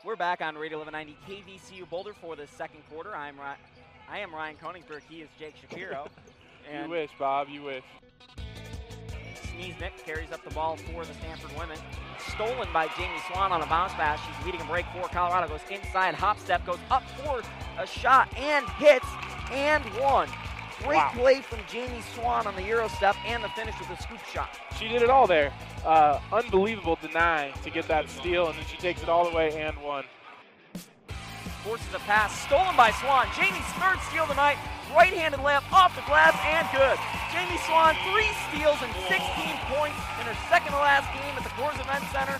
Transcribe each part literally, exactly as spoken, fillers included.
We're back on Radio eleven ninety K V C U Boulder for the second quarter. I'm Ry- I am Ryan Koenigsberg. He is Jake Shapiro. And you wish, Bob. You wish. Sneeznick carries up the ball for the Stanford women. Stolen by Jamie Swan on a bounce pass. She's leading a break for Colorado. Goes inside, hop step, goes up for a shot and hits and one. Great wow. play from Jamie Swan on the Euro step and the finish with a scoop shot. She did it all there. Uh, unbelievable deny to get that steal, and then she takes it all the way and one. Forces a pass, stolen by Swan. Jamie's third steal of the night. Right-handed layup off the glass and good. Jamie Swan, three steals and sixteen points in her second to last game at the Coors Event Center.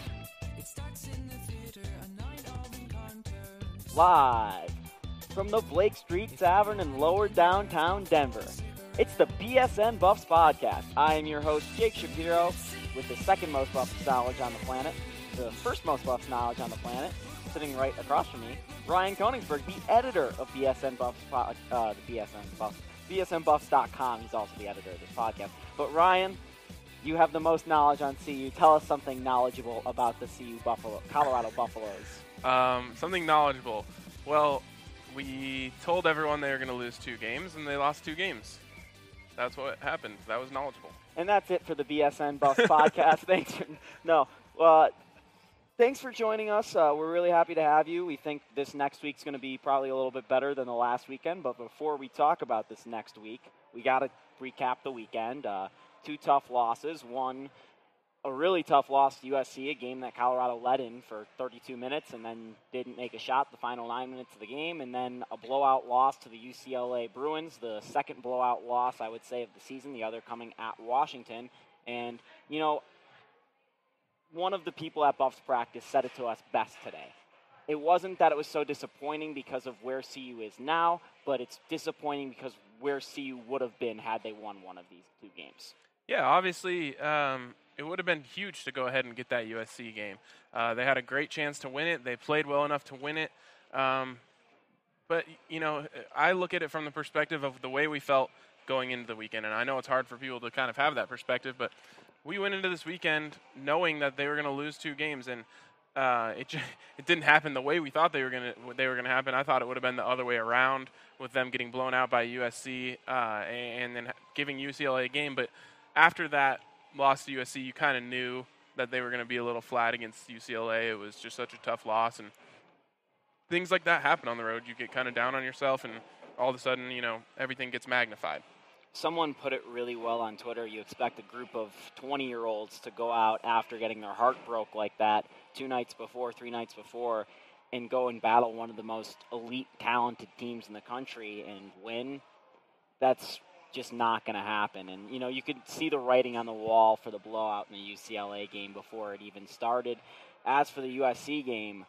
Live from the Blake Street Tavern in lower downtown Denver, it's the B S N Buffs podcast. I am your host, Jake Shapiro, with the second most Buffs knowledge on the planet, the first most Buffs knowledge on the planet, sitting right across from me, Ryan Koenigsberg, the editor of B S N Buffs, uh, the B S N Buffs, B S N Buffs dot com. He's also the editor of this podcast. But Ryan, you have the most knowledge on C U. Tell us something knowledgeable about the C U Buffalo, Colorado Buffaloes. Um, something knowledgeable. Well, we told everyone they were going to lose two games, and they lost two games. That's what happened. That was knowledgeable. And that's it for the B S N Buffs podcast. Thanks. For, no, uh, thanks for joining us. Uh, we're really happy to have you. We think this next week's going to be probably a little bit better than the last weekend. But before we talk about this next week, we got to recap the weekend. Uh, two tough losses. One, a really tough loss to U S C, a game that Colorado led in for thirty-two minutes and then didn't make a shot the final nine minutes of the game. And then a blowout loss to the U C L A Bruins, the second blowout loss, I would say, of the season, the other coming at Washington. And, you know, one of the people at Buffs practice said it to us best today. It wasn't that it was so disappointing because of where C U is now, but it's disappointing because where C U would have been had they won one of these two games. Yeah, obviously, um, it would have been huge to go ahead and get that U S C game. Uh, they had a great chance to win it. They played well enough to win it. Um, but, you know, I look at it from the perspective of the way we felt going into the weekend. And I know it's hard for people to kind of have that perspective, but we went into this weekend knowing that they were going to lose two games, and uh, it just, it didn't happen the way we thought they were going to they were going to happen. I thought it would have been the other way around with them getting blown out by U S C uh, and then giving U C L A a game. But after that loss to U S C, you kind of knew that they were going to be a little flat against U C L A. It was just such a tough loss, and things like that happen on the road. You get kind of down on yourself, and all of a sudden, you know, everything gets magnified. Someone put it really well on Twitter. You expect a group of twenty-year-olds to go out after getting their heart broke like that two nights before, three nights before, and go and battle one of the most elite, talented teams in the country and win. That's just not going to happen. And, you know, you could see the writing on the wall for the blowout in the U C L A game before it even started. As for the U S C game,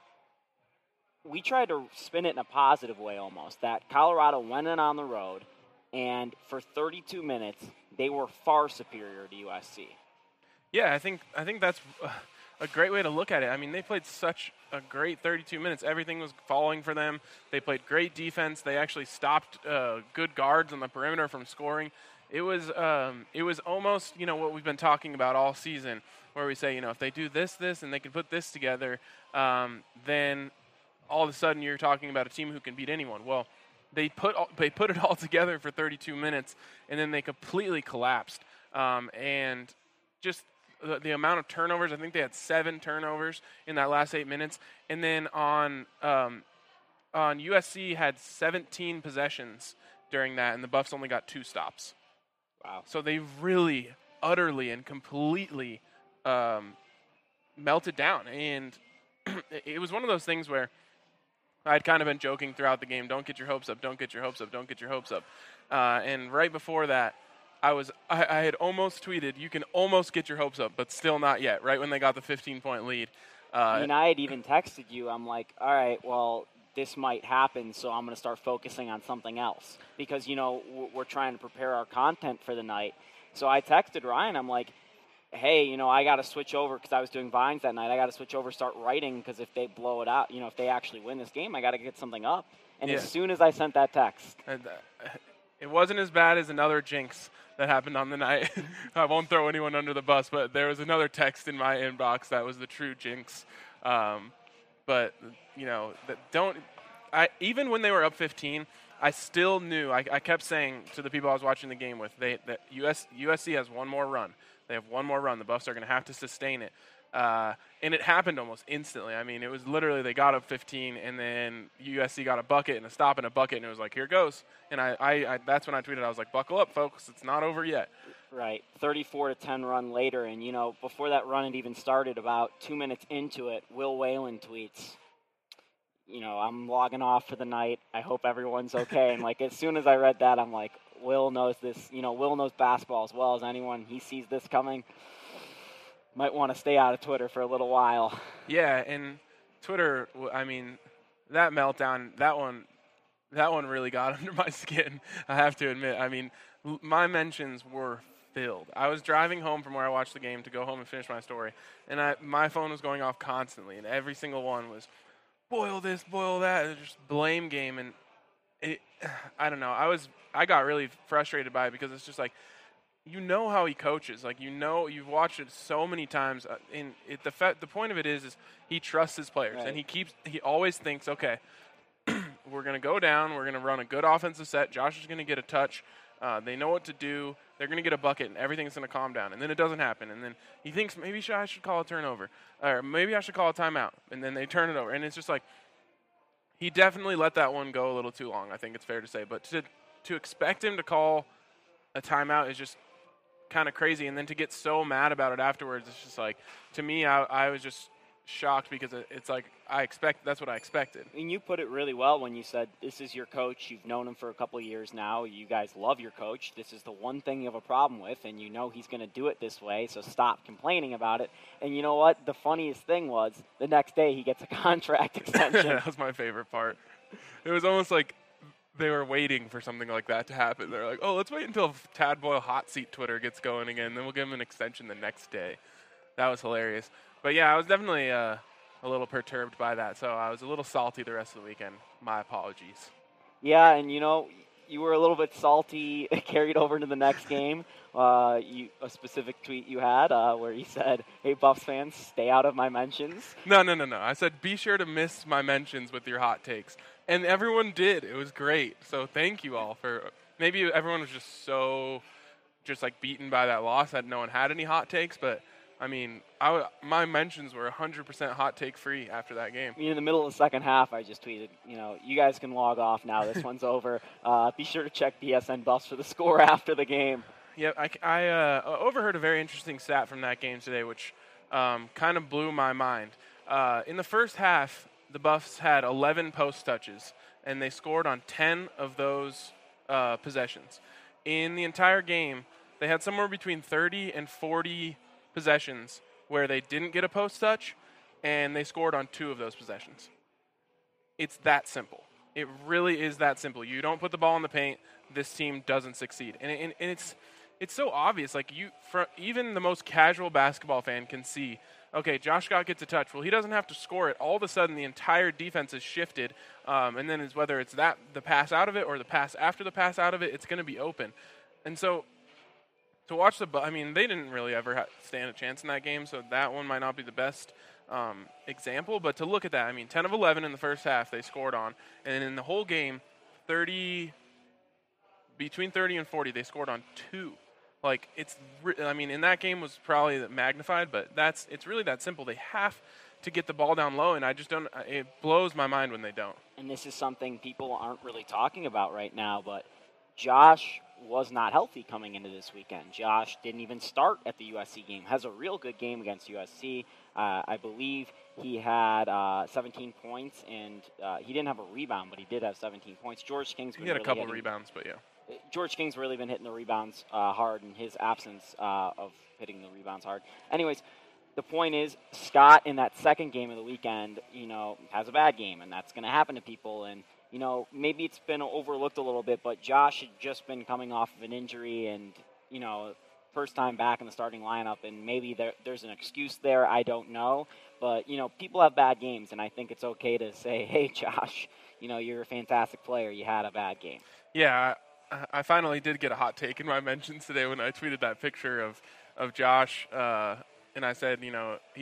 we tried to spin it in a positive way almost, that Colorado went in on the road, and for thirty-two minutes, they were far superior to U S C. Yeah, I think I think that's a great way to look at it. I mean, they played such a great thirty-two minutes. Everything was falling for them. They played great defense. They actually stopped uh, good guards on the perimeter from scoring. It was um, it was almost, you know, what we've been talking about all season, where we say, you know, if they do this, this, and they can put this together, um, then all of a sudden you're talking about a team who can beat anyone. Well, they put all, they put it all together for thirty-two minutes, and then they completely collapsed. Um, and just the, the amount of turnovers, I think they had seven turnovers in that last eight minutes. And then on um, on U S C had seventeen possessions during that, and the Buffs only got two stops. Wow. So they really, utterly, and completely um, melted down. And it was one of those things where I'd kind of been joking throughout the game, don't get your hopes up, don't get your hopes up, don't get your hopes up. Uh, and right before that, I was I, I had almost tweeted, you can almost get your hopes up, but still not yet, right when they got the fifteen-point lead. Uh, I mean, I had even texted you. I'm like, all right, well, this might happen, so I'm going to start focusing on something else. Because, you know, we're trying to prepare our content for the night. So I texted Ryan. I'm like, hey, you know, I got to switch over because I was doing Vines that night. I got to switch over, start writing, because if they blow it out, you know, if they actually win this game, I got to get something up. And yeah. as soon as I sent that text. And, uh, it wasn't as bad as another jinx that happened on the night. I won't throw anyone under the bus, but there was another text in my inbox that was the true jinx. Um, but you know, that don't. I even when they were up fifteen, I still knew. I, I kept saying to the people I was watching the game with, they that U S U S C has one more run. They have one more run. The Buffs are going to have to sustain it. Uh, and it happened almost instantly. I mean, it was literally they got up fifteen, and then U S C got a bucket and a stop and a bucket, and it was like, here goes. And I, I, I that's when I tweeted, I was like, buckle up, folks. It's not over yet. Right, thirty-four to ten run later, and, you know, before that run had even started, about two minutes into it, Will Whalen tweets, you know, I'm logging off for the night. I hope everyone's okay. And, like, as soon as I read that, I'm like, Will knows this. You know, Will knows basketball as well as anyone. He sees this coming. Might want to stay out of Twitter for a little while. Yeah, and Twitter, I mean, that meltdown, that one, that one really got under my skin, I have to admit. I mean, l- my mentions were filled. I was driving home from where I watched the game to go home and finish my story, and I, my phone was going off constantly, and every single one was, boil this, boil that, it was just blame game, and it, I don't know. I was, I got really frustrated by it because it's just like, you know how he coaches. Like, you know, you've watched it so many times. Uh, and it, the fe- the point of it is, is he trusts his players, right. and he keeps, he always thinks, okay, we're going to go down, we're going to run a good offensive set. Josh is going to get a touch. Uh, they know what to do. They're going to get a bucket, and everything's going to calm down. And then it doesn't happen. And then he thinks maybe I should call a turnover, or maybe I should call a timeout. And then they turn it over, and it's just like he definitely let that one go a little too long. I think it's fair to say. But to to expect him to call a timeout is just kind of crazy, and then to get so mad about it afterwards, it's just like, to me, I, I was just shocked because it, it's like I expect that's what I expected. And you put it really well when you said this is your coach. You've known him for a couple of years now. You guys love your coach. This is the one thing you have a problem with, and you know he's going to do it this way, so stop complaining about it. And you know what? The funniest thing was the next day he gets a contract extension. That was my favorite part. It was almost like they were waiting for something like that to happen. They're like, oh, let's wait until Tad Boyle hot seat Twitter gets going again, then we'll give him an extension the next day. That was hilarious. But, yeah, I was definitely uh, a little perturbed by that, so I was a little salty the rest of the weekend. My apologies. Yeah, and, you know, you were a little bit salty, carried over into the next game. Uh, you, a specific tweet you had uh, where you said, hey, Buffs fans, stay out of my mentions. No, no, no, no. I said be sure to miss my mentions with your hot takes. And everyone did. It was great. So thank you all for – maybe everyone was just so just, like, beaten by that loss that no one had any hot takes. But, I mean, I w- my mentions were one hundred percent hot take free after that game. I mean, in the middle of the second half, I just tweeted, you know, you guys can log off now. This one's over. Uh, be sure to check B S N Buffs for the score after the game. Yeah, I, I uh, overheard a very interesting stat from that game today, which um, kind of blew my mind. Uh, in the first half, the Buffs had eleven post touches, and they scored on ten of those uh, possessions. In the entire game, they had somewhere between thirty and forty possessions where they didn't get a post touch, and they scored on two of those possessions. It's that simple. It really is that simple. You don't put the ball in the paint, this team doesn't succeed. And, and, and it's it's so obvious. Like, you, for even the most casual basketball fan can see, okay, Josh Scott gets a touch. Well, he doesn't have to score it. All of a sudden, the entire defense is shifted, um, and then it's whether it's that the pass out of it or the pass after the pass out of it, it's going to be open. And so to watch the – I mean, they didn't really ever ha- stand a chance in that game, so that one might not be the best um, example. But to look at that, I mean, ten of eleven in the first half they scored on, and in the whole game, thirty – between thirty and forty, they scored on two. Like, it's, I mean, in that game was probably magnified, but that's, it's really that simple. They have to get the ball down low, and I just don't, it blows my mind when they don't. And this is something people aren't really talking about right now, but Josh was not healthy coming into this weekend. Josh didn't even start at the U S C game. Has a real good game against U S C. Uh, I believe he had uh, seventeen points, and uh, he didn't have a rebound, but he did have seventeen points. George King's He had really a couple hitting, rebounds, but yeah. George King's really been hitting the rebounds uh, hard in his absence uh, of hitting the rebounds hard. Anyways, the point is, Scott in that second game of the weekend, you know, has a bad game, and that's going to happen to people. And, you know, maybe it's been overlooked a little bit, but Josh had just been coming off of an injury and, you know, first time back in the starting lineup, and maybe there, there's an excuse there. I don't know. But, you know, people have bad games, and I think it's okay to say, hey, Josh, you know, you're a fantastic player. You had a bad game. Yeah, I, I finally did get a hot take in my mentions today when I tweeted that picture of, of Josh, uh, and I said, you know, he's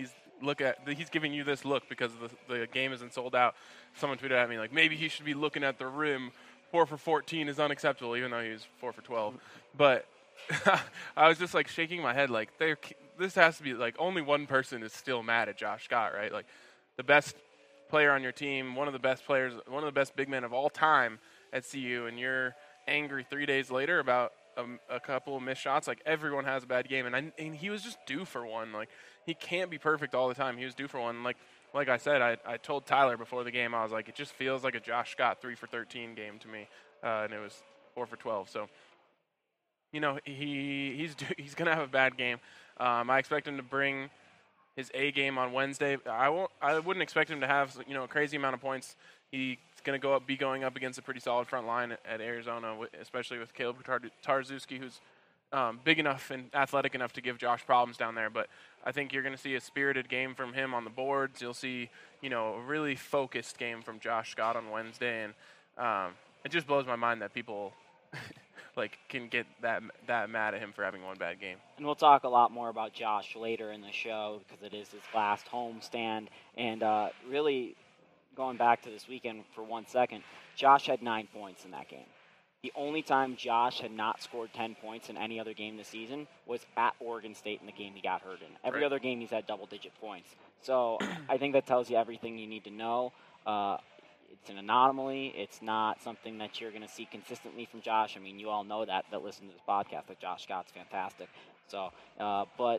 look at he's giving you this look because the the game isn't sold out. Someone tweeted at me like maybe he should be looking at the rim. Four for fourteen is unacceptable, even though he was four for twelve. But I was just like shaking my head like there. This has to be like only one person is still mad at Josh Scott, right? Like the best player on your team, one of the best players, one of the best big men of all time at C U, and you're angry three days later about a, a couple of missed shots. Like everyone has a bad game, and I and he was just due for one. Like he can't be perfect all the time. He was due for one. Like like I said, I I told Tyler before the game, I was like, it just feels like a Josh Scott three for thirteen game to me, uh, and it was four for twelve. So you know he he's due, he's gonna have a bad game. Um, I expect him to bring his A game on Wednesday. I won't. I wouldn't expect him to have you know a crazy amount of points. He's going to go up, be going up against a pretty solid front line at, at Arizona, especially with Caleb Tarczewski, who's um, big enough and athletic enough to give Josh problems down there. But I think you're going to see a spirited game from him on the boards. You'll see you know a really focused game from Josh Scott on Wednesday, and um, it just blows my mind that people. like can get that that mad at him for having one bad game. And we'll talk a lot more about Josh later in the show because it is his last home stand. And uh, really, going back to this weekend for one second, Josh had nine points in that game. The only time Josh had not scored ten points in any other game this season was at Oregon State in the game he got hurt in. Every right. other game he's had double-digit points. So I think that tells you everything you need to know. Uh, It's an anomaly. It's not something that you're going to see consistently from Josh. I mean, you all know that that listen to this podcast, that Josh Scott's fantastic. So, uh, but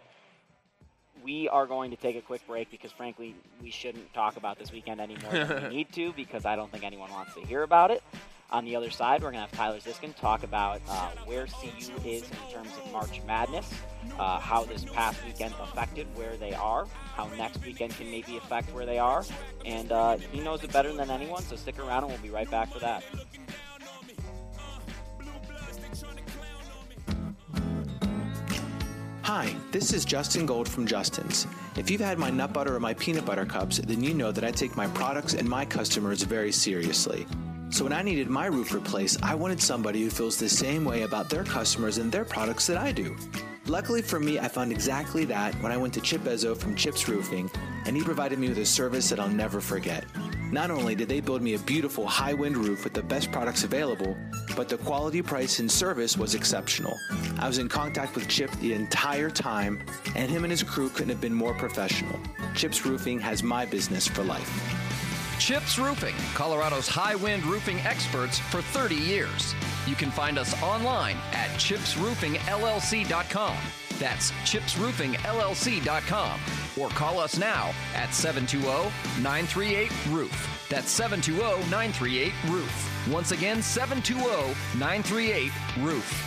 we are going to take a quick break because, frankly, we shouldn't talk about this weekend any more than we need to because I don't think anyone wants to hear about it. On the other side, we're going to have Tyler Ziskin talk about uh, where C U is in terms of March Madness, uh, how this past weekend affected where they are, how next weekend can maybe affect where they are, and uh, he knows it better than anyone, so stick around and we'll be right back for that. Hi, this is Justin Gold from Justin's. If you've had my nut butter or my peanut butter cups, then you know that I take my products and my customers very seriously. So when I needed my roof replaced, I wanted somebody who feels the same way about their customers and their products that I do. Luckily for me, I found exactly that when I went to Chip Bezzo from Chips Roofing, and he provided me with a service that I'll never forget. Not only did they build me a beautiful high-wind roof with the best products available, but the quality, price, and service was exceptional. I was in contact with Chip the entire time, and him and his crew couldn't have been more professional. Chips Roofing has my business for life. Chips Roofing, Colorado's high-wind roofing experts for thirty years. You can find us online at chips roofing L L C dot com. That's chips roofing L L C dot com. Or call us now at seven two zero, nine three eight, roof. That's seven two zero, nine three eight, roof. Once again, seven two zero, nine three eight, roof.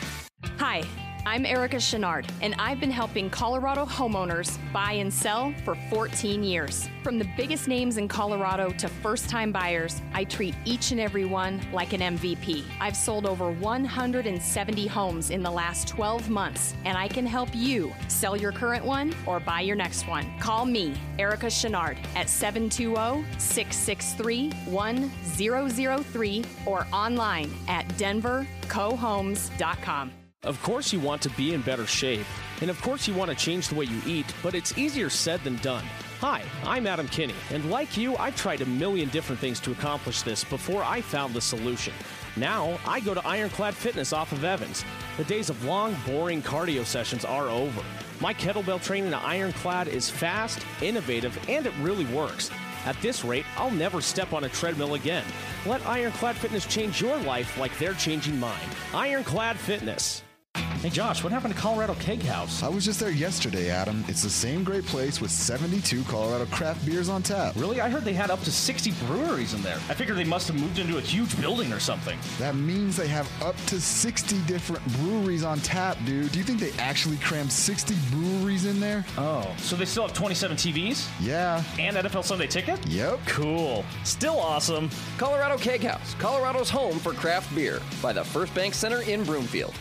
Hi, I'm Erica Chenard, and I've been helping Colorado homeowners buy and sell for fourteen years. From the biggest names in Colorado to first-time buyers, I treat each and every one like an M V P. I've sold over one hundred seventy homes in the last twelve months, and I can help you sell your current one or buy your next one. Call me, Erica Chenard, at seven two zero, six six three, one zero zero three or online at denver co homes dot com. Of course you want to be in better shape, and of course you want to change the way you eat, but it's easier said than done. Hi, I'm Adam Kinney, and like you, I've tried a million different things to accomplish this before I found the solution. Now, I go to Ironclad Fitness off of Evans. The days of long, boring cardio sessions are over. My kettlebell training at Ironclad is fast, innovative, and it really works. At this rate, I'll never step on a treadmill again. Let Ironclad Fitness change your life like they're changing mine. Ironclad Fitness. Hey Josh, what happened to Colorado Keg House? I was just there yesterday, Adam. It's the same great place with seventy-two Colorado craft beers on tap. Really? I heard they had up to sixty breweries in there. I figured they must have moved into a huge building or something. That means they have up to sixty different breweries on tap, dude. Do you think they actually crammed sixty breweries in there? Oh, so they still have twenty-seven T Vs? Yeah. And N F L Sunday Ticket? Yep. Cool. Still awesome. Colorado Keg House, Colorado's home for craft beer, by the First Bank Center in Broomfield.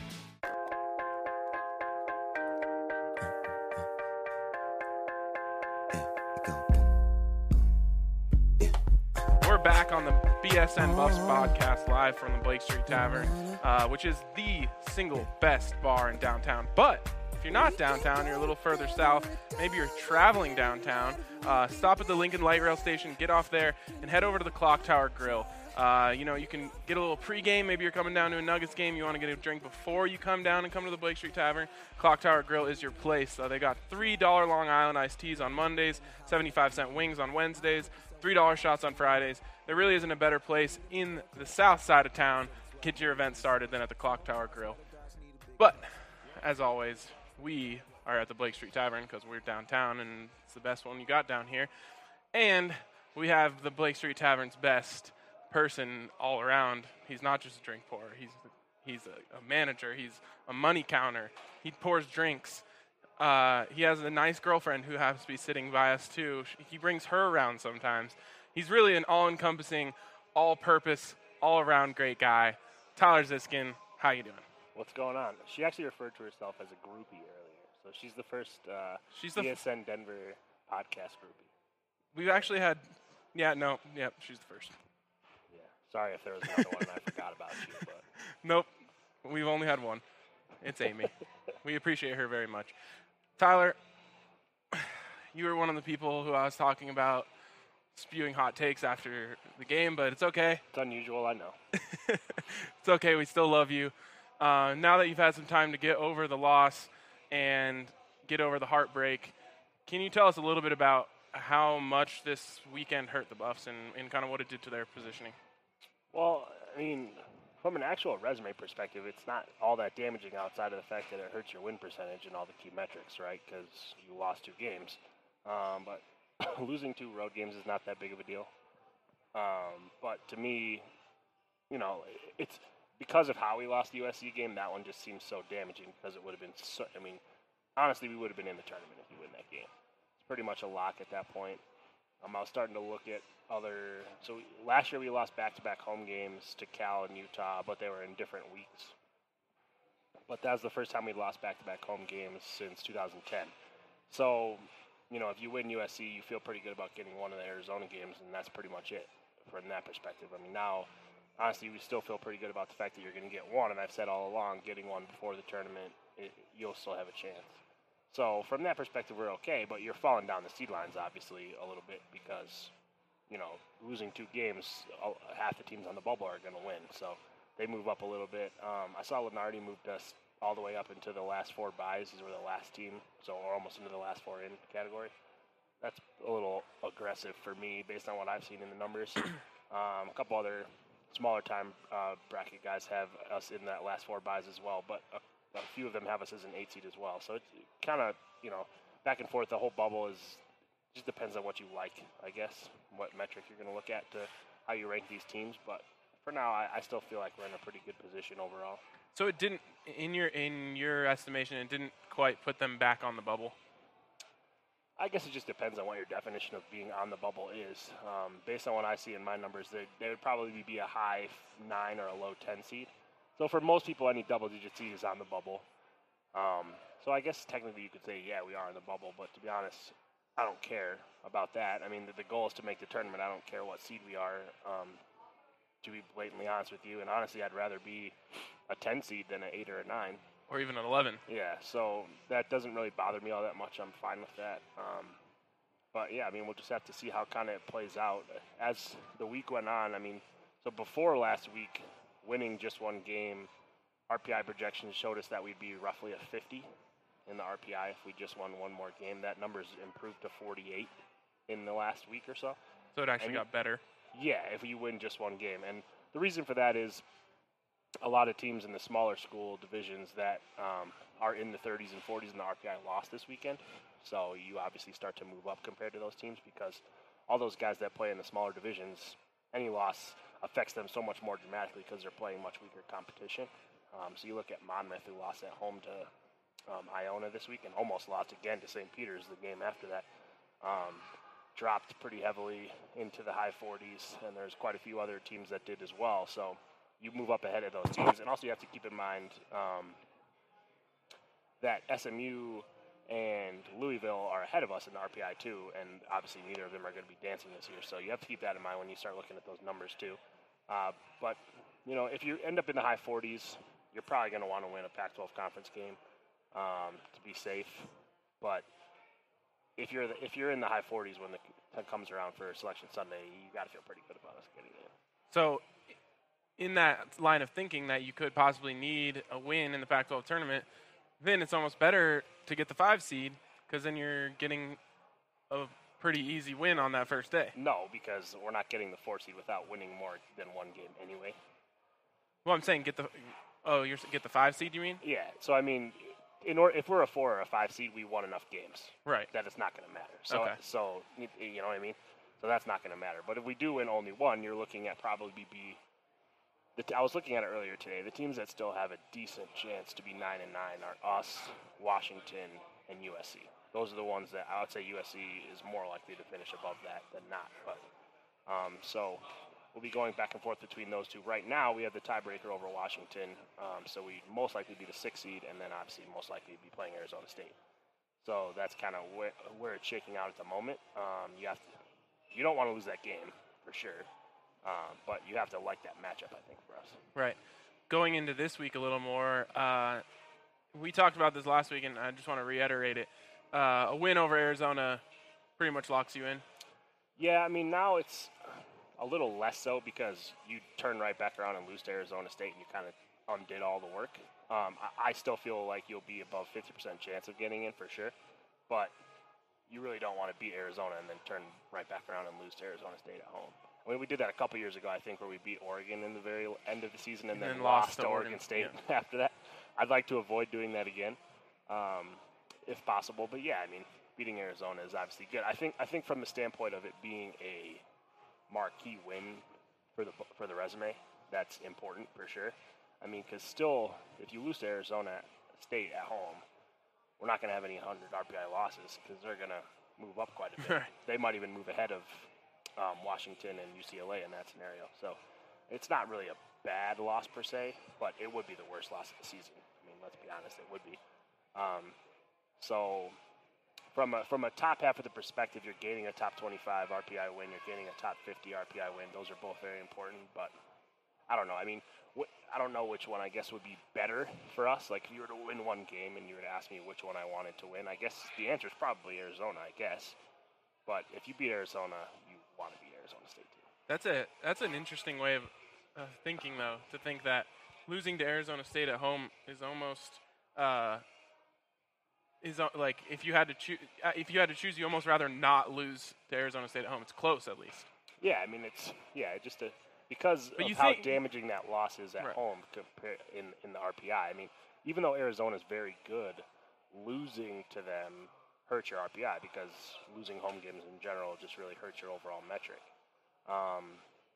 Back on the B S N Buffs podcast live from the Blake Street Tavern, uh, which is the single best bar in downtown. But if you're not downtown, you're a little further south, maybe you're traveling downtown, uh, stop at the Lincoln Light Rail Station, get off there, and head over to the Clock Tower Grill. Uh, you know, you can get a little pregame. Maybe you're coming down to a Nuggets game. You want to get a drink before you come down and come to the Blake Street Tavern. Clock Tower Grill is your place. Uh, they got three dollar Long Island iced teas on Mondays, seventy-five cent wings on Wednesdays, three dollar shots on Fridays. There really isn't a better place in the south side of town to get your event started than at the Clock Tower Grill. But, as always, we are at the Blake Street Tavern because we're downtown and it's the best one you got down here. And we have the Blake Street Tavern's best person all around. He's not just a drink pourer. He's he's a, a manager. He's a money counter. He pours drinks. Uh, he has a nice girlfriend who happens to be sitting by us too. He brings her around sometimes. He's really an all-encompassing, all-purpose, all-around great guy. Tyler Ziskin, how you doing? What's going on? She actually referred to herself as a groupie earlier, so she's the first uh, she's the E S N Denver podcast groupie. We've actually had, yeah, no, yeah, she's the first. Sorry if there was another one and I forgot about you. But. Nope. We've only had one. It's Amy. We appreciate her very much. Tyler, you were one of the people who I was talking about spewing hot takes after the game, but it's okay. It's unusual, I know. It's okay. We still love you. Uh, now that you've had some time to get over the loss and get over the heartbreak, can you tell us a little bit about how much this weekend hurt the Buffs and, and kind of what it did to their positioning? Well, I mean, from an actual resume perspective, it's not all that damaging outside of the fact that it hurts your win percentage and all the key metrics, right? Because you lost two games. Um, but losing two road games is not that big of a deal. Um, but to me, you know, it's because of how we lost the U S C game, that one just seems so damaging because it would have been so, I mean, honestly, we would have been in the tournament if you win that game. It's pretty much a lock at that point. Um, I was starting to look at other. So last year we lost back-to-back home games to Cal and Utah, but they were in different weeks. But that was the first time we lost back-to-back home games since two thousand ten. So, you know, if you win U S C, you feel pretty good about getting one of the Arizona games, and that's pretty much it from that perspective. I mean, now, honestly, we still feel pretty good about the fact that you're going to get one, and I've said all along, getting one before the tournament, it, you'll still have a chance. So from that perspective, we're okay, but you're falling down the seed lines, obviously, a little bit because, you know, losing two games, half the teams on the bubble are going to win. So they move up a little bit. Um, I saw Lenardi moved us all the way up into the last four buys. These were the last team, so we're almost into the last four in category. That's a little aggressive for me based on what I've seen in the numbers. Um, a couple other smaller time uh, bracket guys have us in that last four buys as well, but a A few of them have us as an eight seed as well. So it's kind of, you know, back and forth. The whole bubble is just depends on what you like, I guess, what metric you're going to look at to how you rank these teams. But for now, I, I still feel like we're in a pretty good position overall. So it didn't, in your in your estimation, it didn't quite put them back on the bubble? I guess it just depends on what your definition of being on the bubble is. Um, based on what I see in my numbers, they, they would probably be a high nine or a low ten seed. So for most people, any double-digit seed is on the bubble. Um, so I guess technically you could say, yeah, we are in the bubble. But to be honest, I don't care about that. I mean, the, the goal is to make the tournament. I don't care what seed we are, um, to be blatantly honest with you. And honestly, I'd rather be a ten seed than an eight or a nine. Or even an eleven. Yeah, so that doesn't really bother me all that much. I'm fine with that. Um, but, yeah, I mean, we'll just have to see how kind of it plays out. As the week went on, I mean, so before last week, winning just one game, R P I projections showed us that we'd be roughly a fifty in the R P I if we just won one more game. That number's improved to forty-eight in the last week or so. So it actually and got better. Yeah, if you win just one game. And the reason for that is a lot of teams in the smaller school divisions that um, are in the thirties and forties in the R P I lost this weekend. So you obviously start to move up compared to those teams because all those guys that play in the smaller divisions, any loss affects them so much more dramatically because they're playing much weaker competition. Um, so you look at Monmouth, who lost at home to um, Iona this week and almost lost again to Saint Peter's the game after that. Um, dropped pretty heavily into the high forties, and there's quite a few other teams that did as well. So you move up ahead of those teams. And also you have to keep in mind um, that S M U and Louisville are ahead of us in the R P I too, and obviously neither of them are going to be dancing this year. So you have to keep that in mind when you start looking at those numbers too. Uh, but, you know, if you end up in the high forties, you're probably going to want to win a Pac twelve conference game. um, to be safe. But if you're the, if you're in the high forties when the time comes around for Selection Sunday, you got to feel pretty good about us getting in. So, in that line of thinking that you could possibly need a win in the Pac twelve tournament, then it's almost better to get the five seed because then you're getting a pretty easy win on that first day. No, because we're not getting the four seed without winning more than one game anyway. Well, I'm saying get the oh, you're get the five seed. You mean? Yeah. So I mean, in or, if we're a four or a five seed, we won enough games, right? That it's not going to matter. So okay. so you know what I mean. So that's not going to matter. But if we do win only one, you're looking at probably be. The t- I was looking at it earlier today. The teams that still have a decent chance to be nine and nine are us, Washington, and U S C. Those are the ones that I would say U S C is more likely to finish above that than not. But um, so we'll be going back and forth between those two. Right now, we have the tiebreaker over Washington, um, so we most likely be the sixth seed, and then obviously most likely be playing Arizona State. So that's kind of where, where it's shaking out at the moment. Um, you have to, you don't want to lose that game for sure. Um, but you have to like that matchup, I think, for us. Right. Going into this week a little more, uh, we talked about this last week, and I just want to reiterate it. Uh, a win over Arizona pretty much locks you in. Yeah, I mean, now it's a little less so because you turn right back around and lose to Arizona State, and you kind of undid all the work. Um, I, I still feel like you'll be above fifty percent chance of getting in for sure, but you really don't want to beat Arizona and then turn right back around and lose to Arizona State at home. I mean, we did that a couple years ago, I think, where we beat Oregon in the very end of the season and, and then, then lost, lost to Oregon, Oregon State yeah. after that. I'd like to avoid doing that again, um, if possible. But yeah, I mean, beating Arizona is obviously good. I think I think from the standpoint of it being a marquee win for the for the resume, that's important for sure. I mean, because still, if you lose to Arizona State at home, we're not going to have any one hundred R P I losses because they're going to move up quite a bit. They might even move ahead of Um, Washington and U C L A in that scenario. So it's not really a bad loss per se, but it would be the worst loss of the season. I mean, let's be honest, it would be. Um, so from a, from a top half of the perspective, you're gaining a top twenty-five R P I win, you're gaining a top fifty R P I win. Those are both very important, but I don't know. I mean, wh- I don't know which one I guess would be better for us. Like if you were to win one game and you were to ask me which one I wanted to win, I guess the answer is probably Arizona, I guess. But if you beat Arizona, you want to beat Arizona State too. That's a that's an interesting way of uh, thinking, though, to think that losing to Arizona State at home is almost uh, is uh, like if you had to choose uh, if you had to choose, you almost rather not lose to Arizona State at home. It's close, at least. Yeah, I mean it's yeah just a, because but of how think, damaging that loss is at right. home compared in in the R P I. I mean, even though Arizona is very good, losing to them hurts your R P I because losing home games in general just really hurts your overall metric. Um,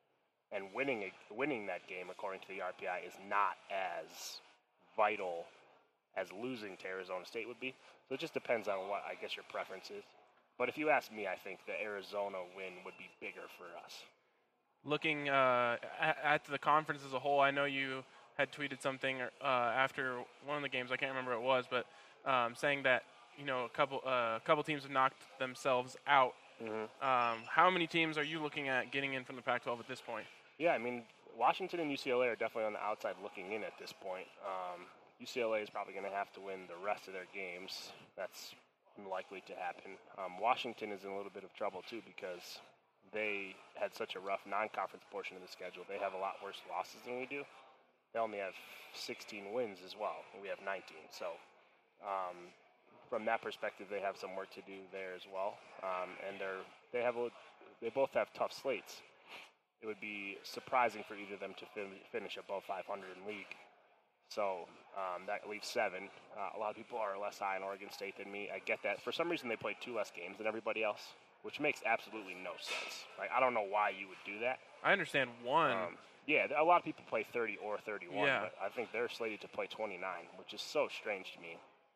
and winning a, winning that game, according to the R P I, is not as vital as losing to Arizona State would be. So it just depends on what, I guess, your preference is. But if you ask me, I think the Arizona win would be bigger for us. Looking uh, at, at the conference as a whole, I know you had tweeted something uh, after one of the games, I can't remember what it was, but um, saying that you know, a couple uh, a couple teams have knocked themselves out. Mm-hmm. Um, how many teams are you looking at getting in from the Pac twelve at this point? Yeah, I mean, Washington and U C L A are definitely on the outside looking in at this point. Um, U C L A is probably going to have to win the rest of their games. That's unlikely to happen. Um, Washington is in a little bit of trouble, too, because they had such a rough non-conference portion of the schedule. They have a lot worse losses than we do. They only have sixteen wins as well, and we have nineteen. So, um, from that perspective, they have some work to do there as well, um, and they're they have a, they both have tough slates. It would be surprising for either of them to fin- finish above five hundred in league. So um, that leaves seven. Uh, a lot of people are less high on Oregon State than me. I get that. For some reason, they played two less games than everybody else, which makes absolutely no sense. Like I don't know why you would do that. I understand one. Um, yeah, a lot of people play thirty or thirty-one, yeah. but I think they're slated to play twenty-nine, which is so strange to me.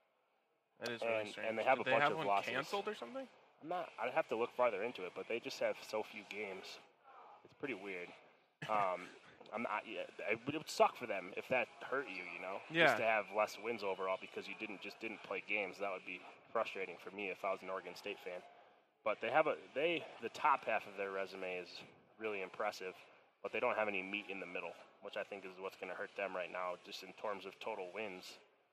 That is and, really strange. And they have Did a they bunch have of one losses. canceled or something? I'm not. I'd have to look farther into it, but they just have so few games. It's pretty weird. Um, I'm not. Yeah, it would suck for them if that hurt you. You know, yeah. just to have less wins overall because you didn't just didn't play games. That would be frustrating for me if I was an Oregon State fan. But they have a they the top half of their resume is really impressive, but they don't have any meat in the middle, which I think is what's going to hurt them right now, just in terms of total wins.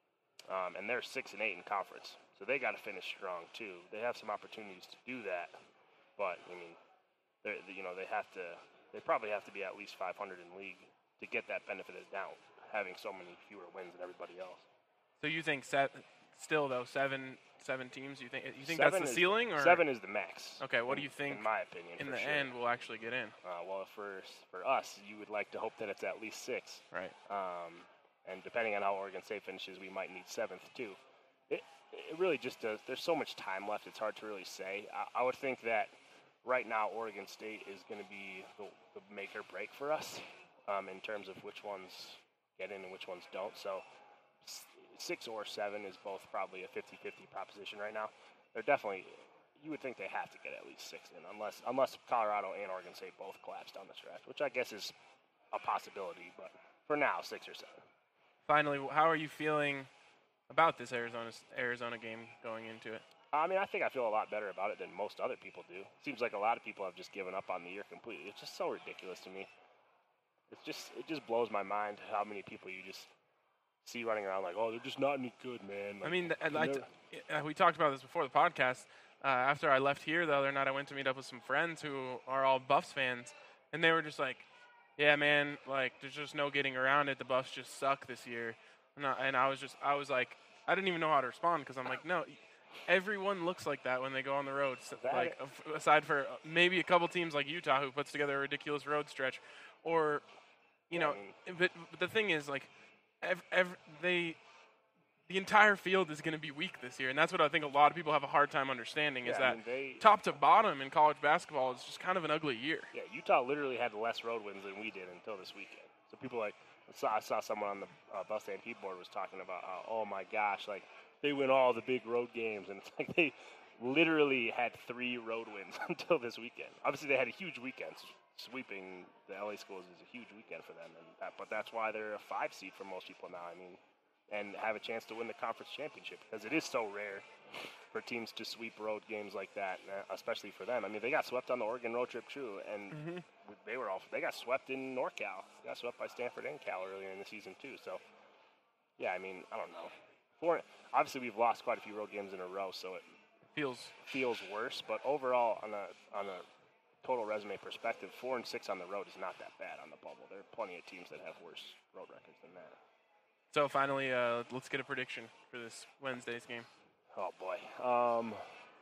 um, and they're six and eight in conference, so they got to finish strong too. They have some opportunities to do that, but I mean, they're, you know, they have to. They probably have to be at least five hundred in league to get that benefit of the doubt, having so many fewer wins than everybody else. So you think set, still though seven seven teams? You think you think Seven that's the is- ceiling, or seven is the max? Okay, what in- do you think? In my opinion, in for the sure. end, we'll actually get in. Uh, well, for for us, you would like to hope that it's at least six. Right. Um, and depending on how Oregon State finishes, we might need seventh too. It it really just does. There's so much time left. It's hard to really say. I, I would think that right now Oregon State is going to be the, the make or break for us um, in terms of which ones get in and which ones don't. So s- six or seven is both probably a fifty-fifty proposition right now. They're definitely. You would think they have to get at least six in, unless unless Colorado and Oregon State both collapse down the stretch, which I guess is a possibility. But for now, six or seven. Finally, how are you feeling about this Arizona Arizona game going into it? I mean, I think I feel a lot better about it than most other people do. Seems like a lot of people have just given up on the year completely. It's just so ridiculous to me. It's just it just blows my mind how many people you just see running around like, oh, they're just not any good, man. Like, I mean, th- they're like never- uh, we talked about this before the podcast. Uh, after I left here the other night, I went to meet up with some friends who are all Buffs fans, and they were just like, "Yeah, man, like there's just no getting around it. The Buffs just suck this year." And I, and I was just, I was like, I didn't even know how to respond because I'm like, no, everyone looks like that when they go on the road. So, That- like af- aside for maybe a couple teams like Utah who puts together a ridiculous road stretch, or you know, but, but the thing is like, ev- ev- they. The entire field is going to be weak this year, and that's what I think a lot of people have a hard time understanding is Yeah, I that mean, they- top to bottom in college basketball is just kind of an ugly year. Yeah, Utah literally had less road wins than we did until this weekend. So people like, I saw, I saw someone on the uh, Bus Stampede board was talking about, uh, oh my gosh, like they win all the big road games, and it's like they literally had three road wins until this weekend. Obviously, they had a huge weekend. Sweeping the L A schools is a huge weekend for them, and that, but that's why they're a five seed for most people now. I mean, and have a chance to win the conference championship because it is so rare for teams to sweep road games like that, uh, especially for them. I mean, they got swept on the Oregon road trip too, and Mm-hmm. they were all they got swept in NorCal. They got swept by Stanford and Cal earlier in the season too. So, yeah, I mean, I don't know. For, obviously, we've lost quite a few road games in a row, so it feels feels worse. But overall, on a on a total resume perspective, four and six on the road is not that bad on the bubble. There are plenty of teams that have worse road records than that. So finally, uh, let's get a prediction for this Wednesday's game. Oh boy, um,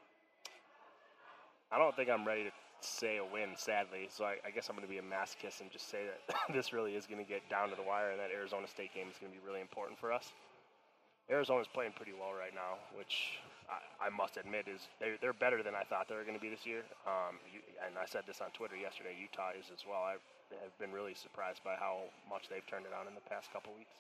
I don't think I'm ready to say a win, sadly. So I, I guess I'm going to be a masochist and just say that this really is going to get down to the wire, and that Arizona State game is going to be really important for us. Arizona's playing pretty well right now, which I, I must admit is they're, they're better than I thought they were going to be this year. Um, you, and I said this on Twitter yesterday. Utah is as well. I have been really surprised by how much they've turned it on in the past couple weeks.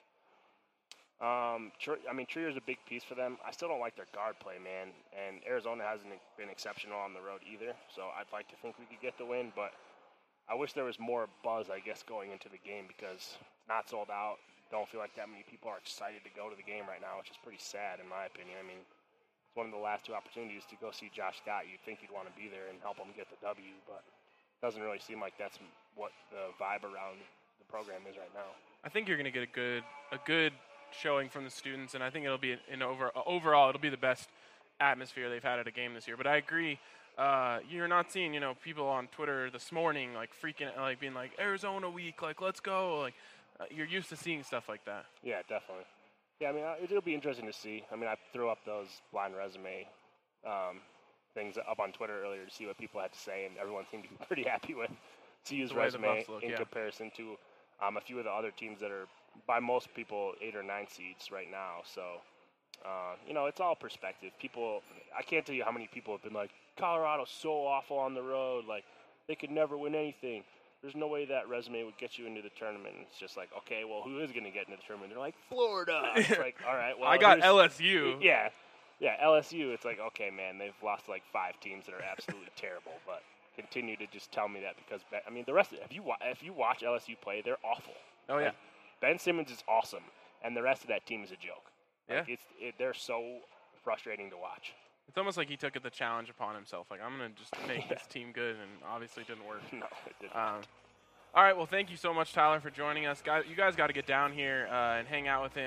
Um, Tr- I mean, Trier's a big piece for them. I still don't like their guard play, man. And Arizona hasn't been exceptional on the road either. So I'd like to think we could get the win, but I wish there was more buzz, I guess, going into the game because it's not sold out. Don't feel like that many people are excited to go to the game right now, which is pretty sad in my opinion. I mean, it's one of the last two opportunities to go see Josh Scott. You'd think you'd want to be there and help him get the W, but it doesn't really seem like that's what the vibe around the program is right now. I think you're going to get a good a good showing from the students, and I think it'll be an over overall it'll be the best atmosphere they've had at a game this year. But I agree, uh, you're not seeing you know people on Twitter this morning like freaking like being like Arizona week, like let's go, like uh, you're used to seeing stuff like that. Yeah, definitely. Yeah, I mean uh, it'll be interesting to see. I mean I threw up those blind resume um, things up on Twitter earlier to see what people had to say, and everyone seemed to be pretty happy with C U's The way the resume Buffs look, in yeah. comparison to um, a few of the other teams that are by most people eight or nine seeds right now. So, uh, you know, it's all perspective. People, I can't tell you how many people have been like, Colorado's so awful on the road. Like, they could never win anything. There's no way that resume would get you into the tournament. It's just like, okay, well, who is going to get into the tournament? They're like, Florida. It's like, all right, well, I got here's- L S U. Yeah. Yeah, L S U, it's like, okay, man, they've lost like five teams that are absolutely terrible, but continue to just tell me that because, I mean, the rest of it, if you, wa- if you watch L S U play, they're awful. Oh, yeah. Like, Ben Simmons is awesome, and the rest of that team is a joke. Like, Yeah. it's, it, they're so frustrating to watch. It's almost like he took the challenge upon himself. Like I'm gonna just make this team good, and obviously it didn't work. No, it didn't. Um, all right, well, thank you so much, Tyler, for joining us. Guys, you guys got to get down here uh, and hang out with him.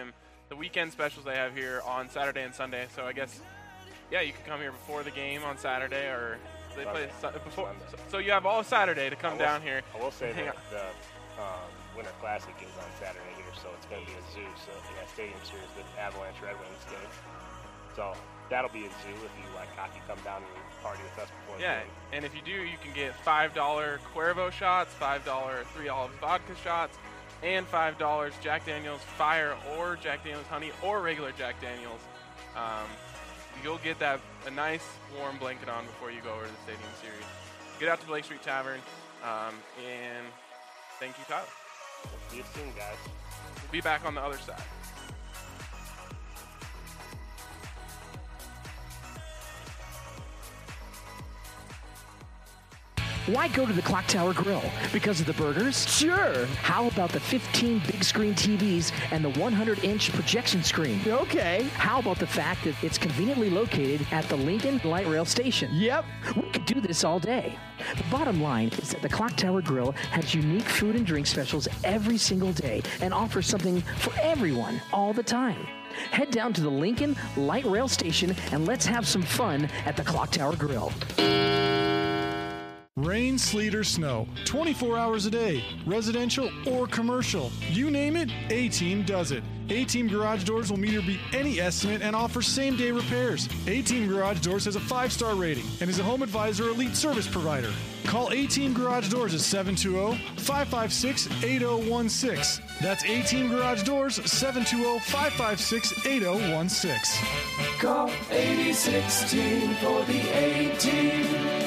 the weekend specials they have here on Saturday and Sunday. So I guess, yeah, you can come here before the game on Saturday, or they play su- before. So, so you have all Saturday to come will, down here. I will say Hang that on. the um, Winter Classic is on Saturday here, so it's going to be a zoo. So in that Stadium Series, the Avalanche Red Wings game. So that'll be a zoo if you like hockey. Come down and party with us before Yeah, the game. and if you do, you can get five dollar Cuervo shots, five dollar three olive vodka shots, and five dollars Jack Daniels Fire or Jack Daniels Honey or regular Jack Daniels. Um, you'll get that a nice warm blanket on before you go over to the Stadium Series. Get out to Blake Street Tavern, um, and thank you, Tyler. See you soon, guys. We'll be back on the other side. Why go to the Clock Tower Grill? Because of the burgers? Sure. How about the fifteen big screen T Vs and the one hundred inch projection screen? Okay. How about the fact that it's conveniently located at the Lincoln Light Rail Station? Yep. We could do this all day. The bottom line is that the Clock Tower Grill has unique food and drink specials every single day and offers something for everyone all the time. Head down to the Lincoln Light Rail Station and let's have some fun at the Clock Tower Grill. Rain, sleet, or snow, twenty-four hours a day, residential or commercial. You name it, A-Team does it. A-Team Garage Doors will meet or beat any estimate and offers same-day repairs. A-Team Garage Doors has a five-star rating and is a Home Advisor Elite service provider. Call A-Team Garage Doors at seven two zero, five five six, eight zero one six. That's A-Team Garage Doors, seven two zero, five five six, eight zero one six. Call eighty sixteen for the A-Team.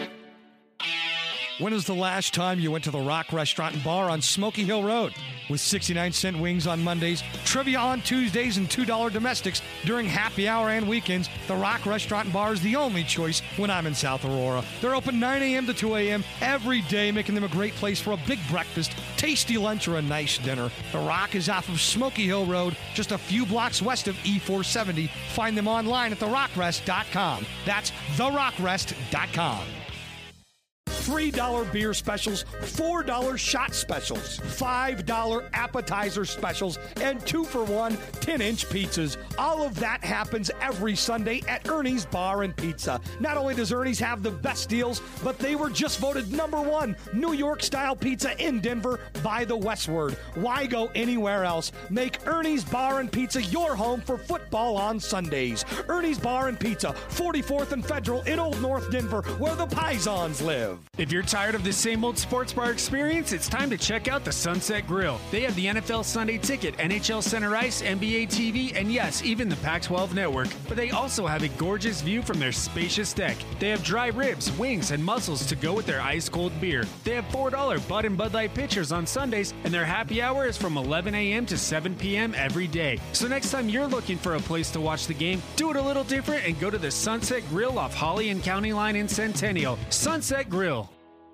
When was the last time you went to the Rock Restaurant and Bar on Smoky Hill Road? With sixty-nine cent wings on Mondays, trivia on Tuesdays, and two dollar domestics during happy hour and weekends, the Rock Restaurant and Bar is the only choice when I'm in South Aurora. They're open nine a.m. to two a.m. every day, making them a great place for a big breakfast, tasty lunch, or a nice dinner. The Rock is off of Smoky Hill Road, just a few blocks west of E four seventy. Find them online at the rock rest dot com. That's the rock rest dot com. three dollar beer specials, four dollar shot specials, five dollar appetizer specials, and two for one ten inch pizzas. All of that happens every Sunday at Ernie's Bar and Pizza. Not only does Ernie's have the best deals, but they were just voted number one New York-style pizza in Denver by the Westward. Why go anywhere else? Make Ernie's Bar and Pizza your home for football on Sundays. Ernie's Bar and Pizza, forty-fourth and Federal in Old North Denver, where the Pisons live. If you're tired of the same old sports bar experience, it's time to check out the Sunset Grill. They have the N F L Sunday Ticket, N H L Center Ice, N B A T V, and yes, even the Pac twelve Network. But they also have a gorgeous view from their spacious deck. They have dry ribs, wings, and mussels to go with their ice-cold beer. They have four dollar Bud and Bud Light pitchers on Sundays, and their happy hour is from eleven a.m. to seven p.m. every day. So next time you're looking for a place to watch the game, do it a little different and go to the Sunset Grill off Holly and County Line in Centennial. Sunset Grill.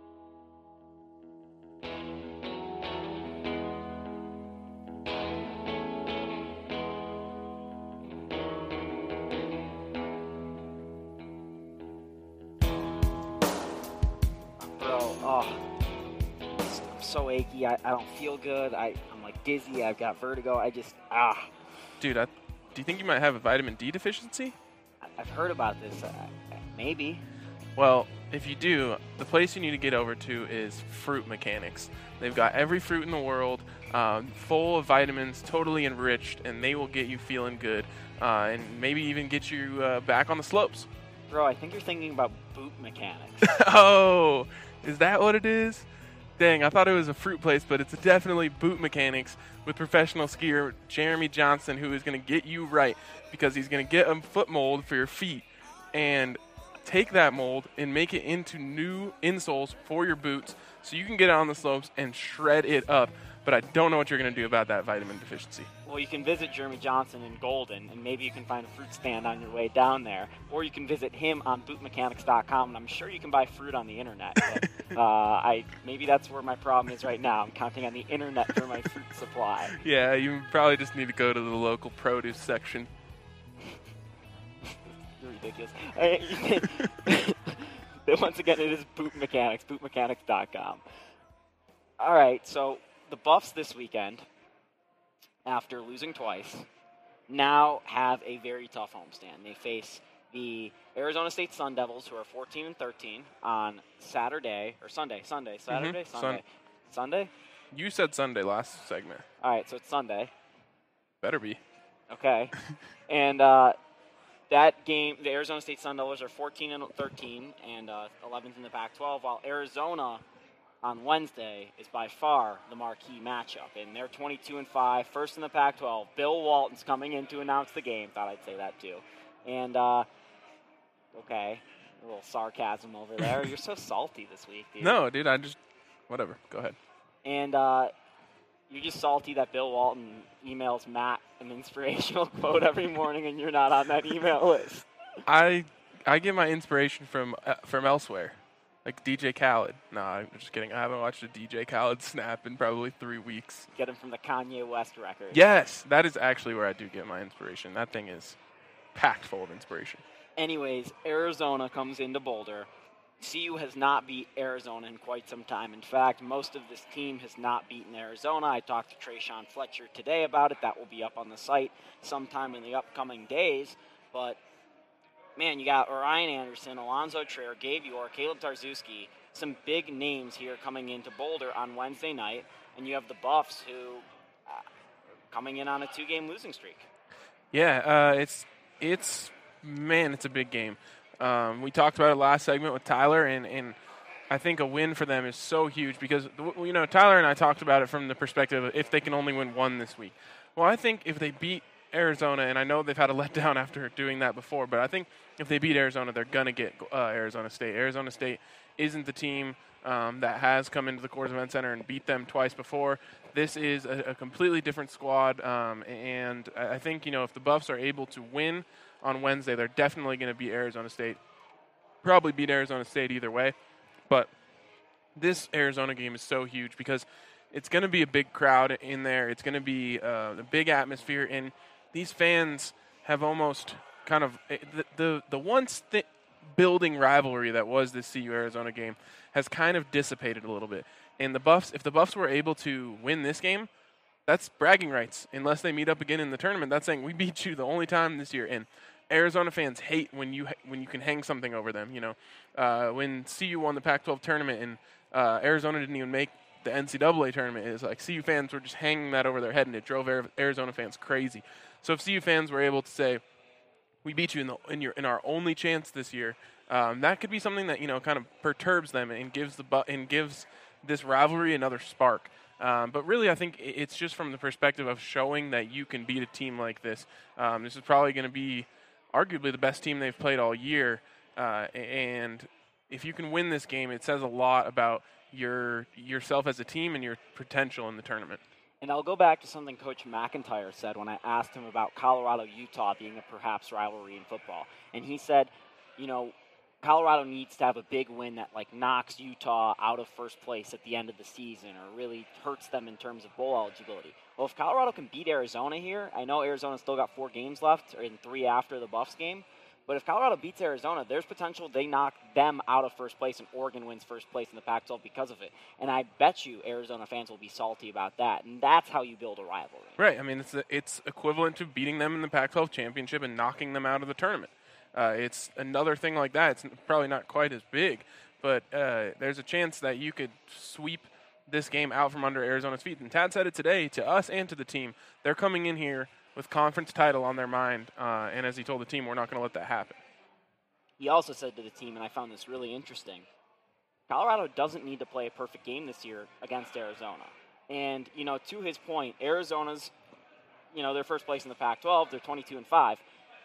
Oh, I'm so achy. I, I don't feel good. I, I'm like dizzy. I've got vertigo. I just, ah. Dude, I, do you think you might have a vitamin D deficiency? I've heard about this. Uh, maybe. Well, if you do, the place you need to get over to is Fruit Mechanics. They've got every fruit in the world, um, full of vitamins, totally enriched, and they will get you feeling good, uh, and maybe even get you uh, back on the slopes. Bro, I think you're thinking about Boot Mechanics. Oh, is that what it is? Dang, I thought it was a fruit place, but it's definitely Boot Mechanics with professional skier Jeremy Johnson, who is going to get you right because he's going to get a foot mold for your feet and take that mold and make it into new insoles for your boots so you can get out on the slopes and shred it up. But I don't know what you're going to do about that vitamin deficiency. Well, you can visit Jeremy Johnson in Golden, and maybe you can find a fruit stand on your way down there. Or you can visit him on boot mechanics dot com, and I'm sure you can buy fruit on the internet. But, uh, I maybe that's where my problem is right now. I'm counting on the internet for my fruit supply. Yeah, you probably just need to go to the local produce section. You're ridiculous. Once again, it is Boot Mechanics, boot mechanics dot com. All right, so the Buffs this weekend, after losing twice, now have a very tough homestand. They face the Arizona State Sun Devils, who are fourteen and thirteen, on Saturday or Sunday. Sunday, Saturday, Mm-hmm. Sunday, Sun- Sunday. You said Sunday last segment. All right, so it's Sunday. Better be. Okay, and uh, that game, the Arizona State Sun Devils are fourteen and thirteen, and uh, eleventh in the Pac twelve, while Arizona on Wednesday is by far the marquee matchup, and they're twenty-two and five, first in the Pac twelve. Bill Walton's coming in to announce the game. Thought I'd say that too. And uh, okay, a little sarcasm over there. You're so salty this week, dude. No, dude, I just whatever. Go ahead. And uh, you're just salty that Bill Walton emails Matt an inspirational quote every morning, and you're not on that email list. I I get my inspiration from uh, from elsewhere, like D J Khaled. No, I'm just kidding. I haven't watched a D J Khaled snap in probably three weeks. Get him from the Kanye West record. Yes, that is actually where I do get my inspiration. That thing is packed full of inspiration. Anyways, Arizona comes into Boulder. C U has not beat Arizona in quite some time. In fact, most of this team has not beaten Arizona. I talked to Trayshawn Fletcher today about it. That will be up on the site sometime in the upcoming days. But, man, you got Ryan Anderson, Alonzo Trier, Gabe York, Caleb Tarzewski, some big names here coming into Boulder on Wednesday night. And you have the Buffs, who uh, are coming in on a two-game losing streak. Yeah, uh, it's it's man, it's a big game. Um, we talked about it last segment with Tyler, and, and I think a win for them is so huge because, you know, Tyler and I talked about it from the perspective of if they can only win one this week. Well, I think if they beat Arizona, and I know they've had a letdown after doing that before, but I think if they beat Arizona, they're going to get uh, Arizona State. Arizona State isn't the team um, that has come into the Coors Event Center and beat them twice before. This is a, a completely different squad, um, and I think, you know, if the Buffs are able to win on Wednesday, they're definitely going to beat Arizona State. Probably beat Arizona State either way. But this Arizona game is so huge because it's going to be a big crowd in there. It's going to be uh, a big atmosphere. And these fans have almost kind of the the, the once th- building rivalry that was this C U Arizona game has kind of dissipated a little bit. And the Buffs, if the Buffs were able to win this game, that's bragging rights. Unless they meet up again in the tournament, that's saying we beat you the only time this year. And Arizona fans hate when you when you can hang something over them. You know, uh, when C U won the Pac twelve tournament and uh, Arizona didn't even make the N C double A tournament, it's like C U fans were just hanging that over their head, and it drove Arizona fans crazy. So if C U fans were able to say, "We beat you in the in your in our only chance this year," um, that could be something that, you know, kind of perturbs them and gives the bu- and gives this rivalry another spark. Um, but really, I think it's just from the perspective of showing that you can beat a team like this. Um, this is probably going to be arguably the best team they've played all year. Uh, and if you can win this game, it says a lot about your yourself as a team and your potential in the tournament. And I'll go back to something Coach McIntyre said when I asked him about Colorado-Utah being a perhaps rivalry in football. And he said, you know, Colorado needs to have a big win that, like, knocks Utah out of first place at the end of the season or really hurts them in terms of bowl eligibility. Well, if Colorado can beat Arizona here, I know Arizona's still got four games left, or in three after the Buffs game, but if Colorado beats Arizona, there's potential they knock them out of first place and Oregon wins first place in the Pac twelve because of it. And I bet you Arizona fans will be salty about that, and that's how you build a rivalry. Right. I mean, it's it's equivalent to beating them in the Pac twelve championship and knocking them out of the tournament. Uh, it's another thing like that. It's probably not quite as big, but uh, there's a chance that you could sweep this game out from under Arizona's feet. And Tad said it today to us and to the team. They're coming in here with conference title on their mind, uh, and as he told the team, we're not going to let that happen. He also said to the team, and I found this really interesting, Colorado doesn't need to play a perfect game this year against Arizona. And, you know, to his point, Arizona's, you know, they're first place in the Pac twelve. They're twenty-two and five.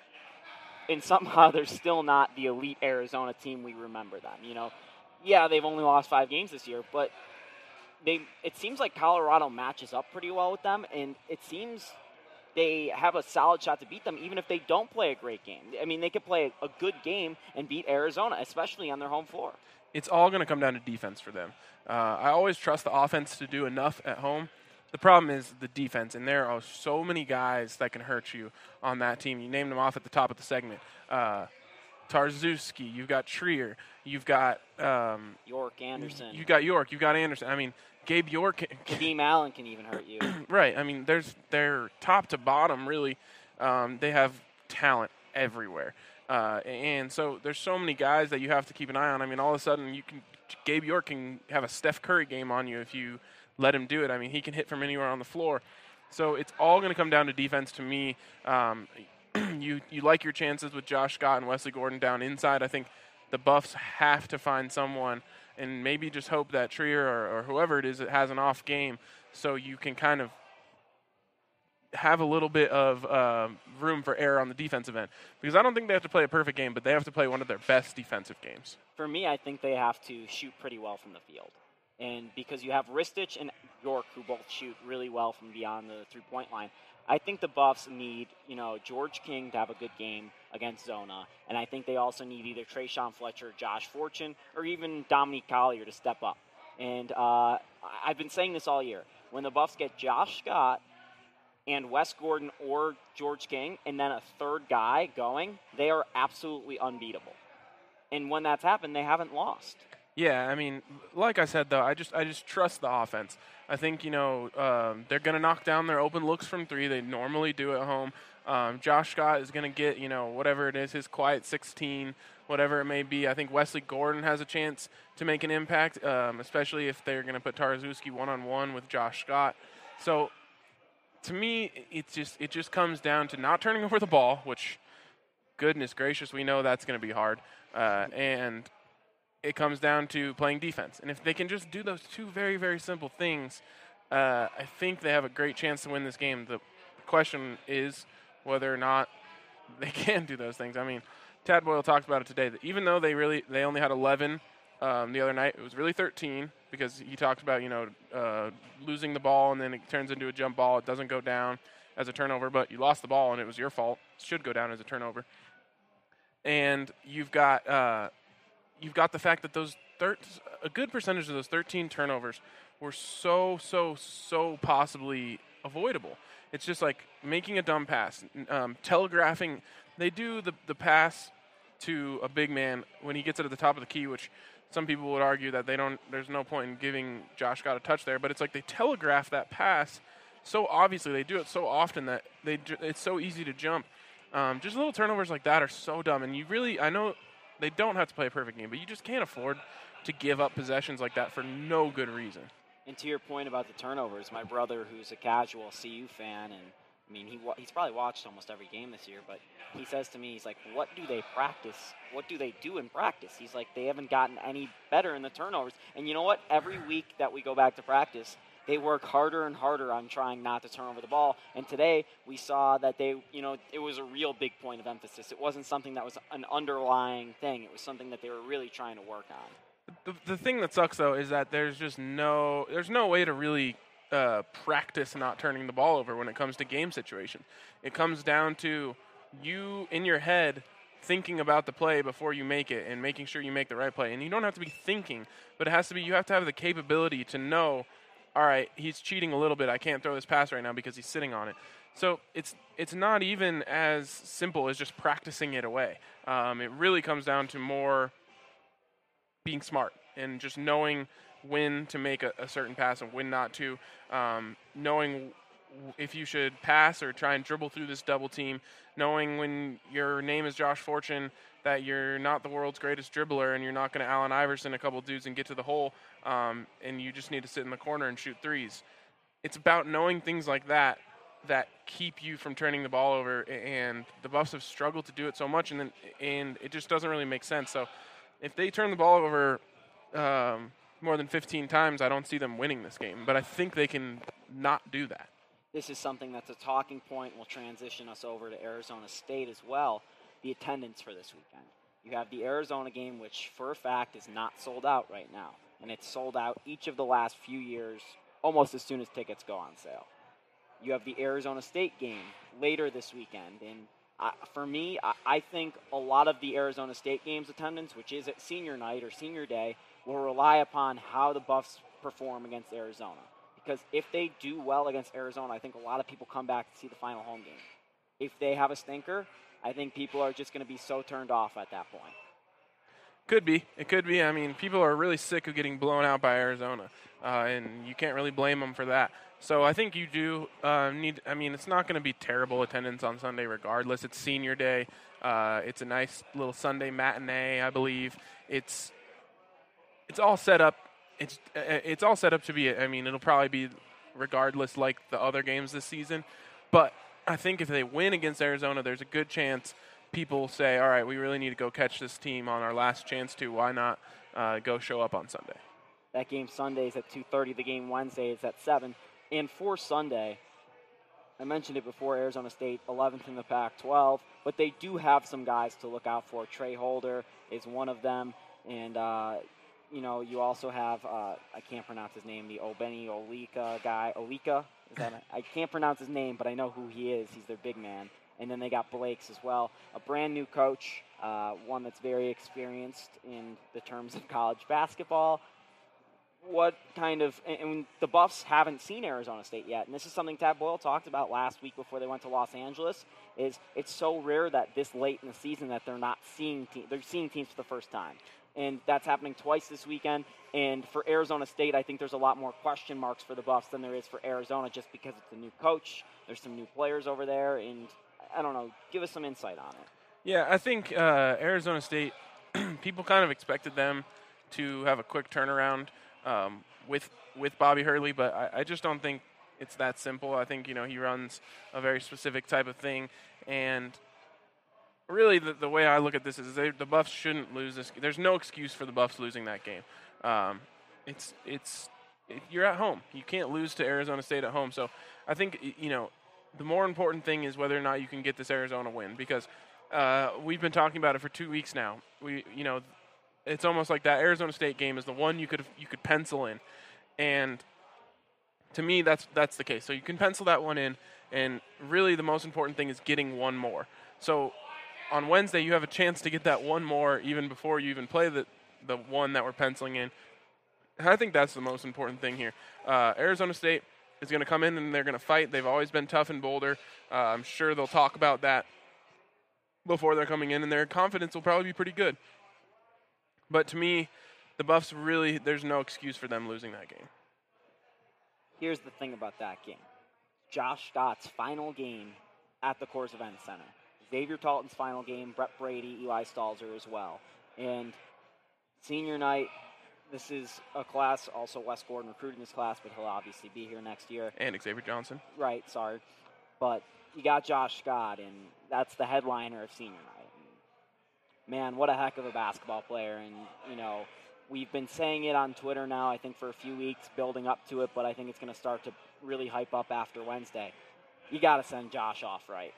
And somehow they're still not the elite Arizona team we remember them. You know, yeah, they've only lost five games this year, but they it seems like Colorado matches up pretty well with them, and it seems they have a solid shot to beat them even if they don't play a great game. I mean, they could play a good game and beat Arizona, especially on their home floor. It's all going to come down to defense for them. Uh, I always trust the offense to do enough at home. The problem is the defense, and there are so many guys that can hurt you on that team. You named them off at the top of the segment. Uh, Tarzewski, you've got Trier, you've got um, York, Anderson. You got York, you got Anderson. I mean, Gabe York. Kadeem Allen can even hurt you. Right. I mean, there's they're top to bottom really. Um, they have talent everywhere. Uh, and so there's so many guys that you have to keep an eye on. I mean, all of a sudden, you can Gabe York can have a Steph Curry game on you if you let him do it. I mean, he can hit from anywhere on the floor. So it's all going to come down to defense to me. Um, you you like your chances with Josh Scott and Wesley Gordon down inside. I think the Buffs have to find someone and maybe just hope that Trier or, or whoever it is that has an off game so you can kind of have a little bit of uh, room for error on the defensive end. Because I don't think they have to play a perfect game, but they have to play one of their best defensive games. For me, I think they have to shoot pretty well from the field. And because you have Ristich and York, who both shoot really well from beyond the three-point line, I think the Buffs need, you know, George King to have a good game against Zona. And I think they also need either Trayshawn Fletcher, Josh Fortune, or even Dominique Collier to step up. And uh, I've been saying this all year. When the Buffs get Josh Scott and Wes Gordon or George King, and then a third guy going, they are absolutely unbeatable. And when that's happened, they haven't lost. Yeah, I mean, like I said, though, I just I just trust the offense. I think, you know, um, they're going to knock down their open looks from three. They normally do at home. Um, Josh Scott is going to get, you know, whatever it is, his quiet sixteen, whatever it may be. I think Wesley Gordon has a chance to make an impact, um, especially if they're going to put Taraszewski one-on-one with Josh Scott. So, to me, it just it just comes down to not turning over the ball, which, goodness gracious, we know that's going to be hard. Uh, and it comes down to playing defense. And if they can just do those two very, very simple things, uh, I think they have a great chance to win this game. The question is whether or not they can do those things. I mean, Tad Boyle talked about it today, that even though they really they only had eleven um, the other night, it was really thirteen because he talks about, you know, uh, losing the ball and then it turns into a jump ball. It doesn't go down as a turnover, but you lost the ball and it was your fault. It should go down as a turnover. And you've got uh, you've got the fact that those thir- a good percentage of those thirteen turnovers were so, so, so possibly avoidable. It's just like making a dumb pass, um, telegraphing. They do the, the pass to a big man when he gets it at the top of the key, which some people would argue that they don't. There's no point in giving Josh Scott a touch there, but it's like they telegraph that pass so obviously. They do it so often that they it's so easy to jump. Um, just little turnovers like that are so dumb, and you really, I know they don't have to play a perfect game, but you just can't afford to give up possessions like that for no good reason. And to your point about the turnovers, my brother, who's a casual C U fan, and I mean, he wa- he's probably watched almost every game this year, but he says to me, he's like, what do they practice? What do they do in practice? He's like, they haven't gotten any better in the turnovers. And you know what? Every week that we go back to practice, they work harder and harder on trying not to turn over the ball. And today we saw that they, you know, it was a real big point of emphasis. It wasn't something that was an underlying thing. It was something that they were really trying to work on. The, the thing that sucks, though, is that there's just no, there's no way to really uh, practice not turning the ball over when it comes to game situations. It comes down to you in your head thinking about the play before you make it and making sure you make the right play. And you don't have to be thinking, but it has to be, you have to have the capability to know, all right, he's cheating a little bit. I can't throw this pass right now because he's sitting on it. So it's it's not even as simple as just practicing it away. Um, it really comes down to more being smart and just knowing when to make a, a certain pass and when not to, um, knowing if you should pass or try and dribble through this double team, knowing when your name is Josh Fortune that you're not the world's greatest dribbler and you're not going to Allen Iverson a couple dudes and get to the hole, um, and you just need to sit in the corner and shoot threes. It's about knowing things like that that keep you from turning the ball over, and the Buffs have struggled to do it so much, and then and it just doesn't really make sense. So if they turn the ball over um, more than fifteen times, I don't see them winning this game, but I think they can not do that. This is something that's a talking point. Will transition us over to Arizona State as well. The attendance for this weekend. You have the Arizona game, which for a fact is not sold out right now. And it's sold out each of the last few years almost as soon as tickets go on sale. You have the Arizona State game later this weekend. And uh, for me, I, I think a lot of the Arizona State game's attendance, which is at senior night or senior day, will rely upon how the Buffs perform against Arizona. Because if they do well against Arizona, I think a lot of people come back to see the final home game. If they have a stinker, I think people are just going to be so turned off at that point. Could be. It could be. I mean, people are really sick of getting blown out by Arizona, uh, and you can't really blame them for that. So I think you do uh, need – I mean, it's not going to be terrible attendance on Sunday regardless. It's senior day. Uh, it's a nice little Sunday matinee, I believe. It's it's all set up. It's it's all set up to be – I mean, it'll probably be regardless like the other games this season. But I think if they win against Arizona, there's a good chance people say, all right, we really need to go catch this team on our last chance to. Why not uh, go show up on Sunday? That game Sunday is at two thirty. The game Wednesday is at seven. And for Sunday, I mentioned it before, Arizona State, eleventh in the Pac twelve, but they do have some guys to look out for. Trey Holder is one of them, and, uh, you know, you also have, uh, I can't pronounce his name, the Obeni Olika guy. Olika? Is that a, I can't pronounce his name, but I know who he is. He's their big man. And then they got Blakes as well. A brand new coach, uh, one that's very experienced in the terms of college basketball. What kind of, and the Buffs haven't seen Arizona State yet, and this is something Tad Boyle talked about last week before they went to Los Angeles, is it's so rare that this late in the season that they're not seeing teams, they're seeing teams for the first time. And that's happening twice this weekend, and for Arizona State, I think there's a lot more question marks for the Buffs than there is for Arizona just because it's a new coach, there's some new players over there, and I don't know, give us some insight on it. Yeah, I think uh, Arizona State, people kind of expected them to have a quick turnaround Um, with with Bobby Hurley, but I, I just don't think it's that simple. I think, you know, he runs a very specific type of thing, and really the, the way I look at this is they, the Buffs shouldn't lose this. There's no excuse for the Buffs losing that game. Um, it's it's it, you're at home. You can't lose to Arizona State at home. So I think, you know, the more important thing is whether or not you can get this Arizona win, because uh, we've been talking about it for two weeks now. We, you know, it's almost like that Arizona State game is the one you could you could pencil in, and to me that's that's the case. So you can pencil that one in, and really the most important thing is getting one more. So on Wednesday you have a chance to get that one more even before you even play the the one that we're penciling in. And I think that's the most important thing here. Uh, Arizona State is going to come in and they're going to fight. They've always been tough in Boulder. Uh, I'm sure they'll talk about that before they're coming in, and their confidence will probably be pretty good. But to me, the Buffs really, there's no excuse for them losing that game. Here's the thing about that game. Josh Scott's final game at the Coors Event Center. Xavier Talton's final game, Brett Brady, Eli Stalzer as well. And senior night, this is a class, also Wes Gordon recruiting this class, but he'll obviously be here next year. And Xavier Johnson. Right, sorry. But you got Josh Scott, and that's the headliner of senior night. Man, what a heck of a basketball player. And, you know, we've been saying it on Twitter now, I think, for a few weeks, building up to it, but I think it's going to start to really hype up after Wednesday. You got to send Josh off right.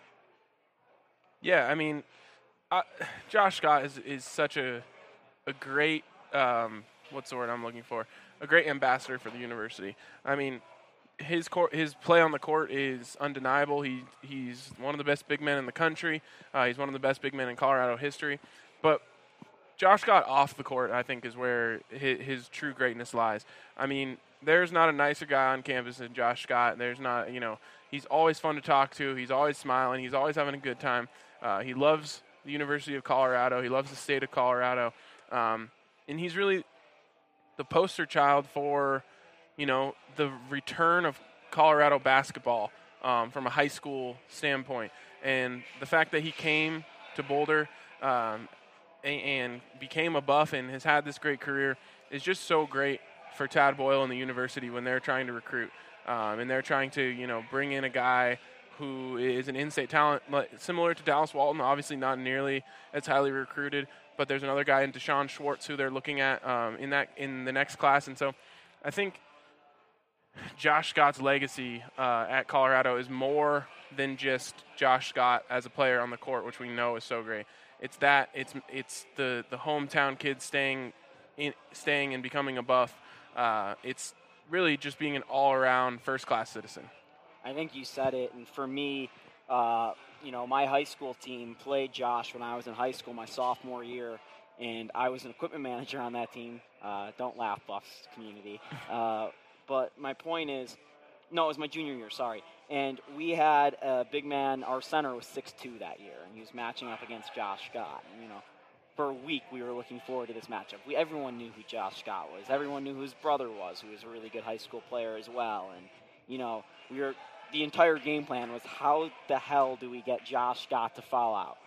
Yeah, I mean, uh, Josh Scott is, is such a a great, um, what's the word I'm looking for, a great ambassador for the university. I mean, his court, his play on the court is undeniable. He he's one of the best big men in the country. Uh, he's one of the best big men in Colorado history. But Josh Scott off the court, I think, is where his, his true greatness lies. I mean, there's not a nicer guy on campus than Josh Scott. There's not, you know, he's always fun to talk to. He's always smiling. He's always having a good time. Uh, he loves the University of Colorado. He loves the state of Colorado. Um, and he's really the poster child for, you know, the return of Colorado basketball um, from a high school standpoint. And the fact that he came to Boulder um, and, and became a Buff and has had this great career is just so great for Tad Boyle and the university when they're trying to recruit. Um, and they're trying to, you know, bring in a guy who is an in-state talent, similar to Dallas Walton, obviously not nearly as highly recruited, but there's another guy in Deshaun Schwartz who they're looking at um, in that in the next class. And so I think Josh Scott's legacy uh, at Colorado is more than just Josh Scott as a player on the court, which we know is so great. It's that it's it's the, the hometown kid staying in, staying and becoming a Buff. Uh, it's really just being an all-around first-class citizen. I think you said it, and for me, uh, you know, my high school team played Josh when I was in high school, my sophomore year, and I was an equipment manager on that team. Uh, don't laugh, Buffs community. Uh, but my point is, no, it was my junior year, sorry. And we had a big man, our center was six two that year, and he was matching up against Josh Scott. And, you know, for a week we were looking forward to this matchup. We, everyone knew who Josh Scott was. Everyone knew who his brother was, who was a really good high school player as well. And, you know, we were the entire game plan was how the hell do we get Josh Scott to foul out?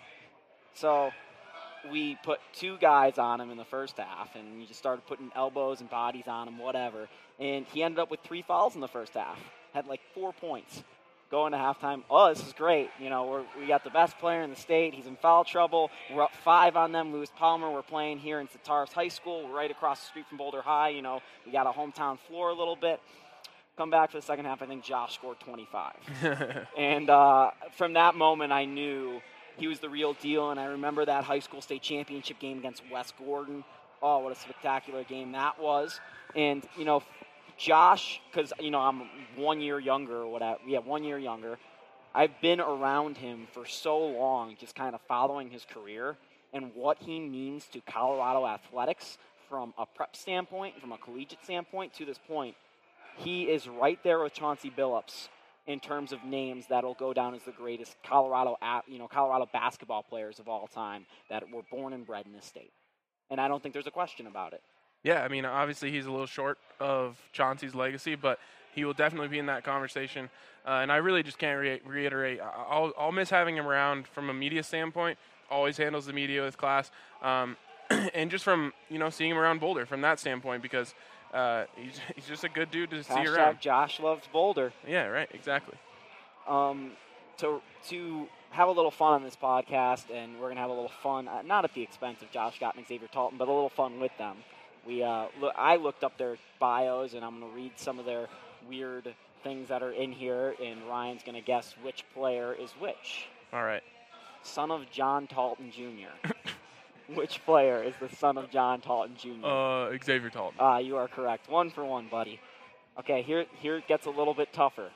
So we put two guys on him in the first half, and you just started putting elbows and bodies on him, whatever. And he ended up with three fouls in the first half. Had like four points. Going to halftime, oh, this is great. You know, we're, we got the best player in the state. He's in foul trouble. We're up five on them. Lewis Palmer, we're playing here in Centaurus High School. We're right across the street from Boulder High. You know, we got a hometown floor a little bit. Come back for the second half, I think Josh scored twenty-five. And uh, from that moment, I knew he was the real deal. And I remember that high school state championship game against West Gordon. Oh, what a spectacular game that was. And, you know, Josh, because, you know, I'm one year younger or whatever. Yeah, one year younger. I've been around him for so long, just kind of following his career and what he means to Colorado athletics from a prep standpoint, from a collegiate standpoint to this point. He is right there with Chauncey Billups in terms of names that'll go down as the greatest Colorado, you know, Colorado basketball players of all time that were born and bred in this state. And I don't think there's a question about it. Yeah, I mean, obviously he's a little short of Chauncey's legacy, but he will definitely be in that conversation. Uh, and I really just can't re- reiterate. I'll, I'll miss having him around from a media standpoint. Always handles the media with class. Um, and just from, you know, seeing him around Boulder from that standpoint, because uh, he's, he's just a good dude to Hashtag see around. Josh loves Boulder. Yeah, right, exactly. Um, to, to have a little fun on this podcast, and we're going to have a little fun, uh, not at the expense of Josh Scott and Xavier Talton, but a little fun with them. We, uh, look, I looked up their bios, and I'm going to read some of their weird things that are in here, and Ryan's going to guess which player is which. All right. Son of John Talton Junior Which player is the son of John Talton Junior? Uh, Xavier Talton. Ah, uh, you are correct. One for one, buddy. Okay, here, here it gets a little bit tougher.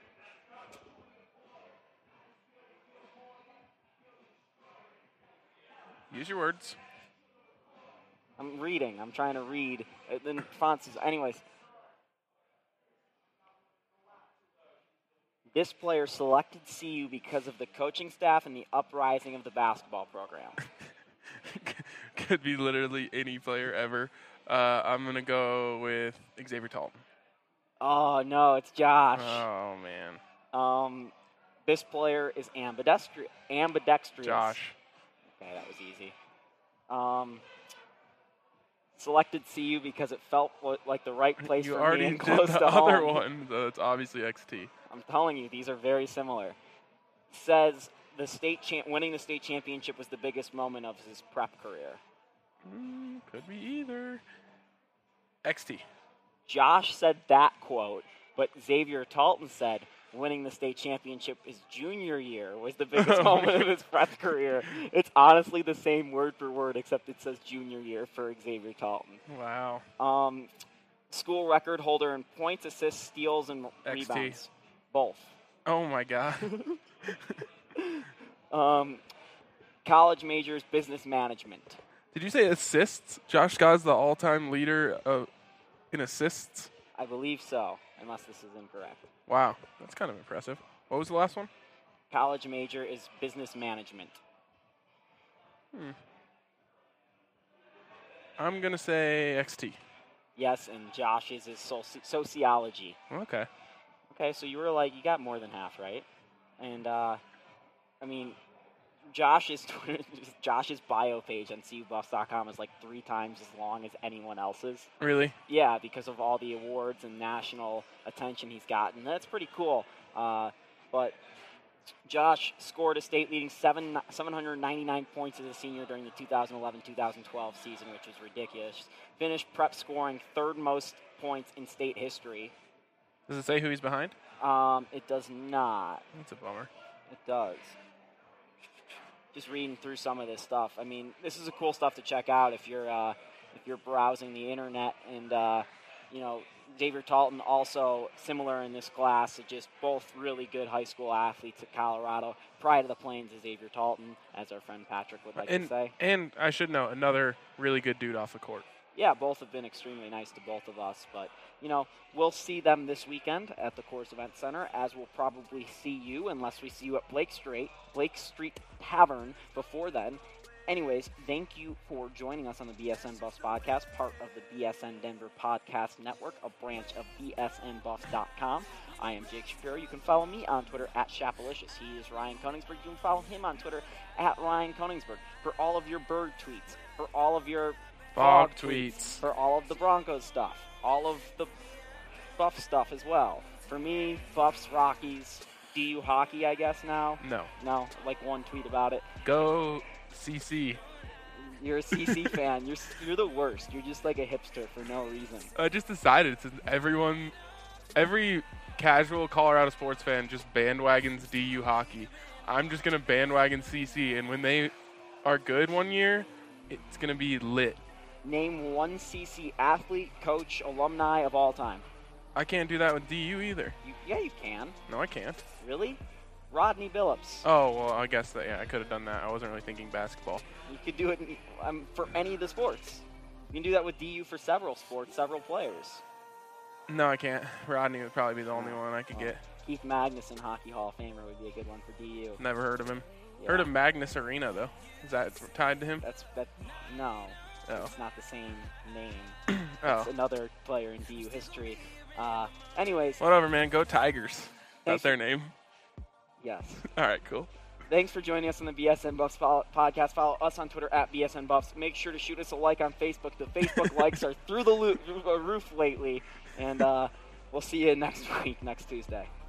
Use your words. I'm reading. I'm trying to read. Then fonts is, anyways. This player selected C U because of the coaching staff and the uprising of the basketball program. Could be literally any player ever. Uh, I'm going to go with Xavier Talton. Oh, no, it's Josh. Oh, man. Um, this player is ambidextrous. ambidextrous. Josh. Okay, that was easy. Um... Selected C U because it felt like the right place you for already me and did close the to other home. one, so it's obviously X T. I'm telling you, these are very similar. Says the state cha- winning the state championship was the biggest moment of his prep career. Mm, could be either. X T. Josh said that quote, but Xavier Talton said winning the state championship his junior year was the biggest moment of his prep career. It's honestly the same word for word, except it says junior year for Xavier Talton. Wow. Um, school record holder in points, assists, steals, and X T. rebounds. Both. Oh, my God. um, college majors, business management. Did you say assists? Josh Scott's the all-time leader of, in assists? I believe so, unless this is incorrect. Wow, that's kind of impressive. What was the last one? College major is business management. Hmm. I'm going to say X T. Yes, and Josh's is soci- sociology. Okay. Okay, so you were like, you got more than half, right? And, uh, I mean, Josh's Josh's bio page on C U Buffs dot com is like three times as long as anyone else's. Really? Yeah, because of all the awards and national attention he's gotten. That's pretty cool. Uh, but Josh scored a state-leading seven, seven hundred ninety-nine points as a senior during the two thousand eleven two thousand twelve season, which was ridiculous. Finished prep scoring third most points in state history. Does it say who he's behind? Um, it does not. That's a bummer. It does. Just reading through some of this stuff. I mean, this is a cool stuff to check out if you're uh, if you're browsing the internet. And uh, you know, Xavier Talton also similar in this class. Just both really good high school athletes at Colorado. Pride of the Plains is Xavier Talton, as our friend Patrick would like and, to say. And I should know another really good dude off the court. Yeah, both have been extremely nice to both of us. But, you know, we'll see them this weekend at the Coors Event Center, as we'll probably see you, unless we see you at Blake Street, Blake Street Tavern before then. anyways, thank you for joining us on the B S N Buffs podcast, part of the B S N Denver Podcast Network, a branch of B S N Buffs dot com. I am Jake Shapiro. You can follow me on Twitter at Shapalicious. He is Ryan Koningsberg. You can follow him on Twitter at Ryan Koningsberg. For all of your bird tweets, for all of your Fog fog tweets. tweets, for all of the Broncos stuff, all of the Buff stuff as well. For me, Buffs, Rockies, D U hockey, I guess now. No. No, like one tweet about it. Go C C. You're a C C fan. You're you're the worst. You're just like a hipster for no reason. I just decided to everyone, every casual Colorado sports fan just bandwagons D U hockey. I'm just gonna bandwagon C C, and when they are good one year, it's gonna be lit. Name one C C athlete, coach, alumni of all time. I can't do that with D U either. You, yeah, you can. No, I can't. Really? Rodney Billups. Oh, well, I guess that, yeah, I could have done that. I wasn't really thinking basketball. You could do it in, um, for any of the sports. You can do that with D U for several sports, several players. No, I can't. Rodney would probably be the only one I could well, get. Keith Magnuson, Hockey Hall of Famer, would be a good one for D U. Never heard of him. Yeah. Heard of Magnus Arena, though. Is that tied to him? That's that. No. Oh. It's not the same name. Oh. It's another player in D U history. Uh, anyways. Whatever, man. Go Tigers. That's their for, name. Yes. All right, cool. Thanks for joining us on the B S N Buffs podcast. Follow us on Twitter at B S N Buffs. Make sure to shoot us a like on Facebook. The Facebook likes are through the roof lately. And uh, we'll see you next week, next Tuesday.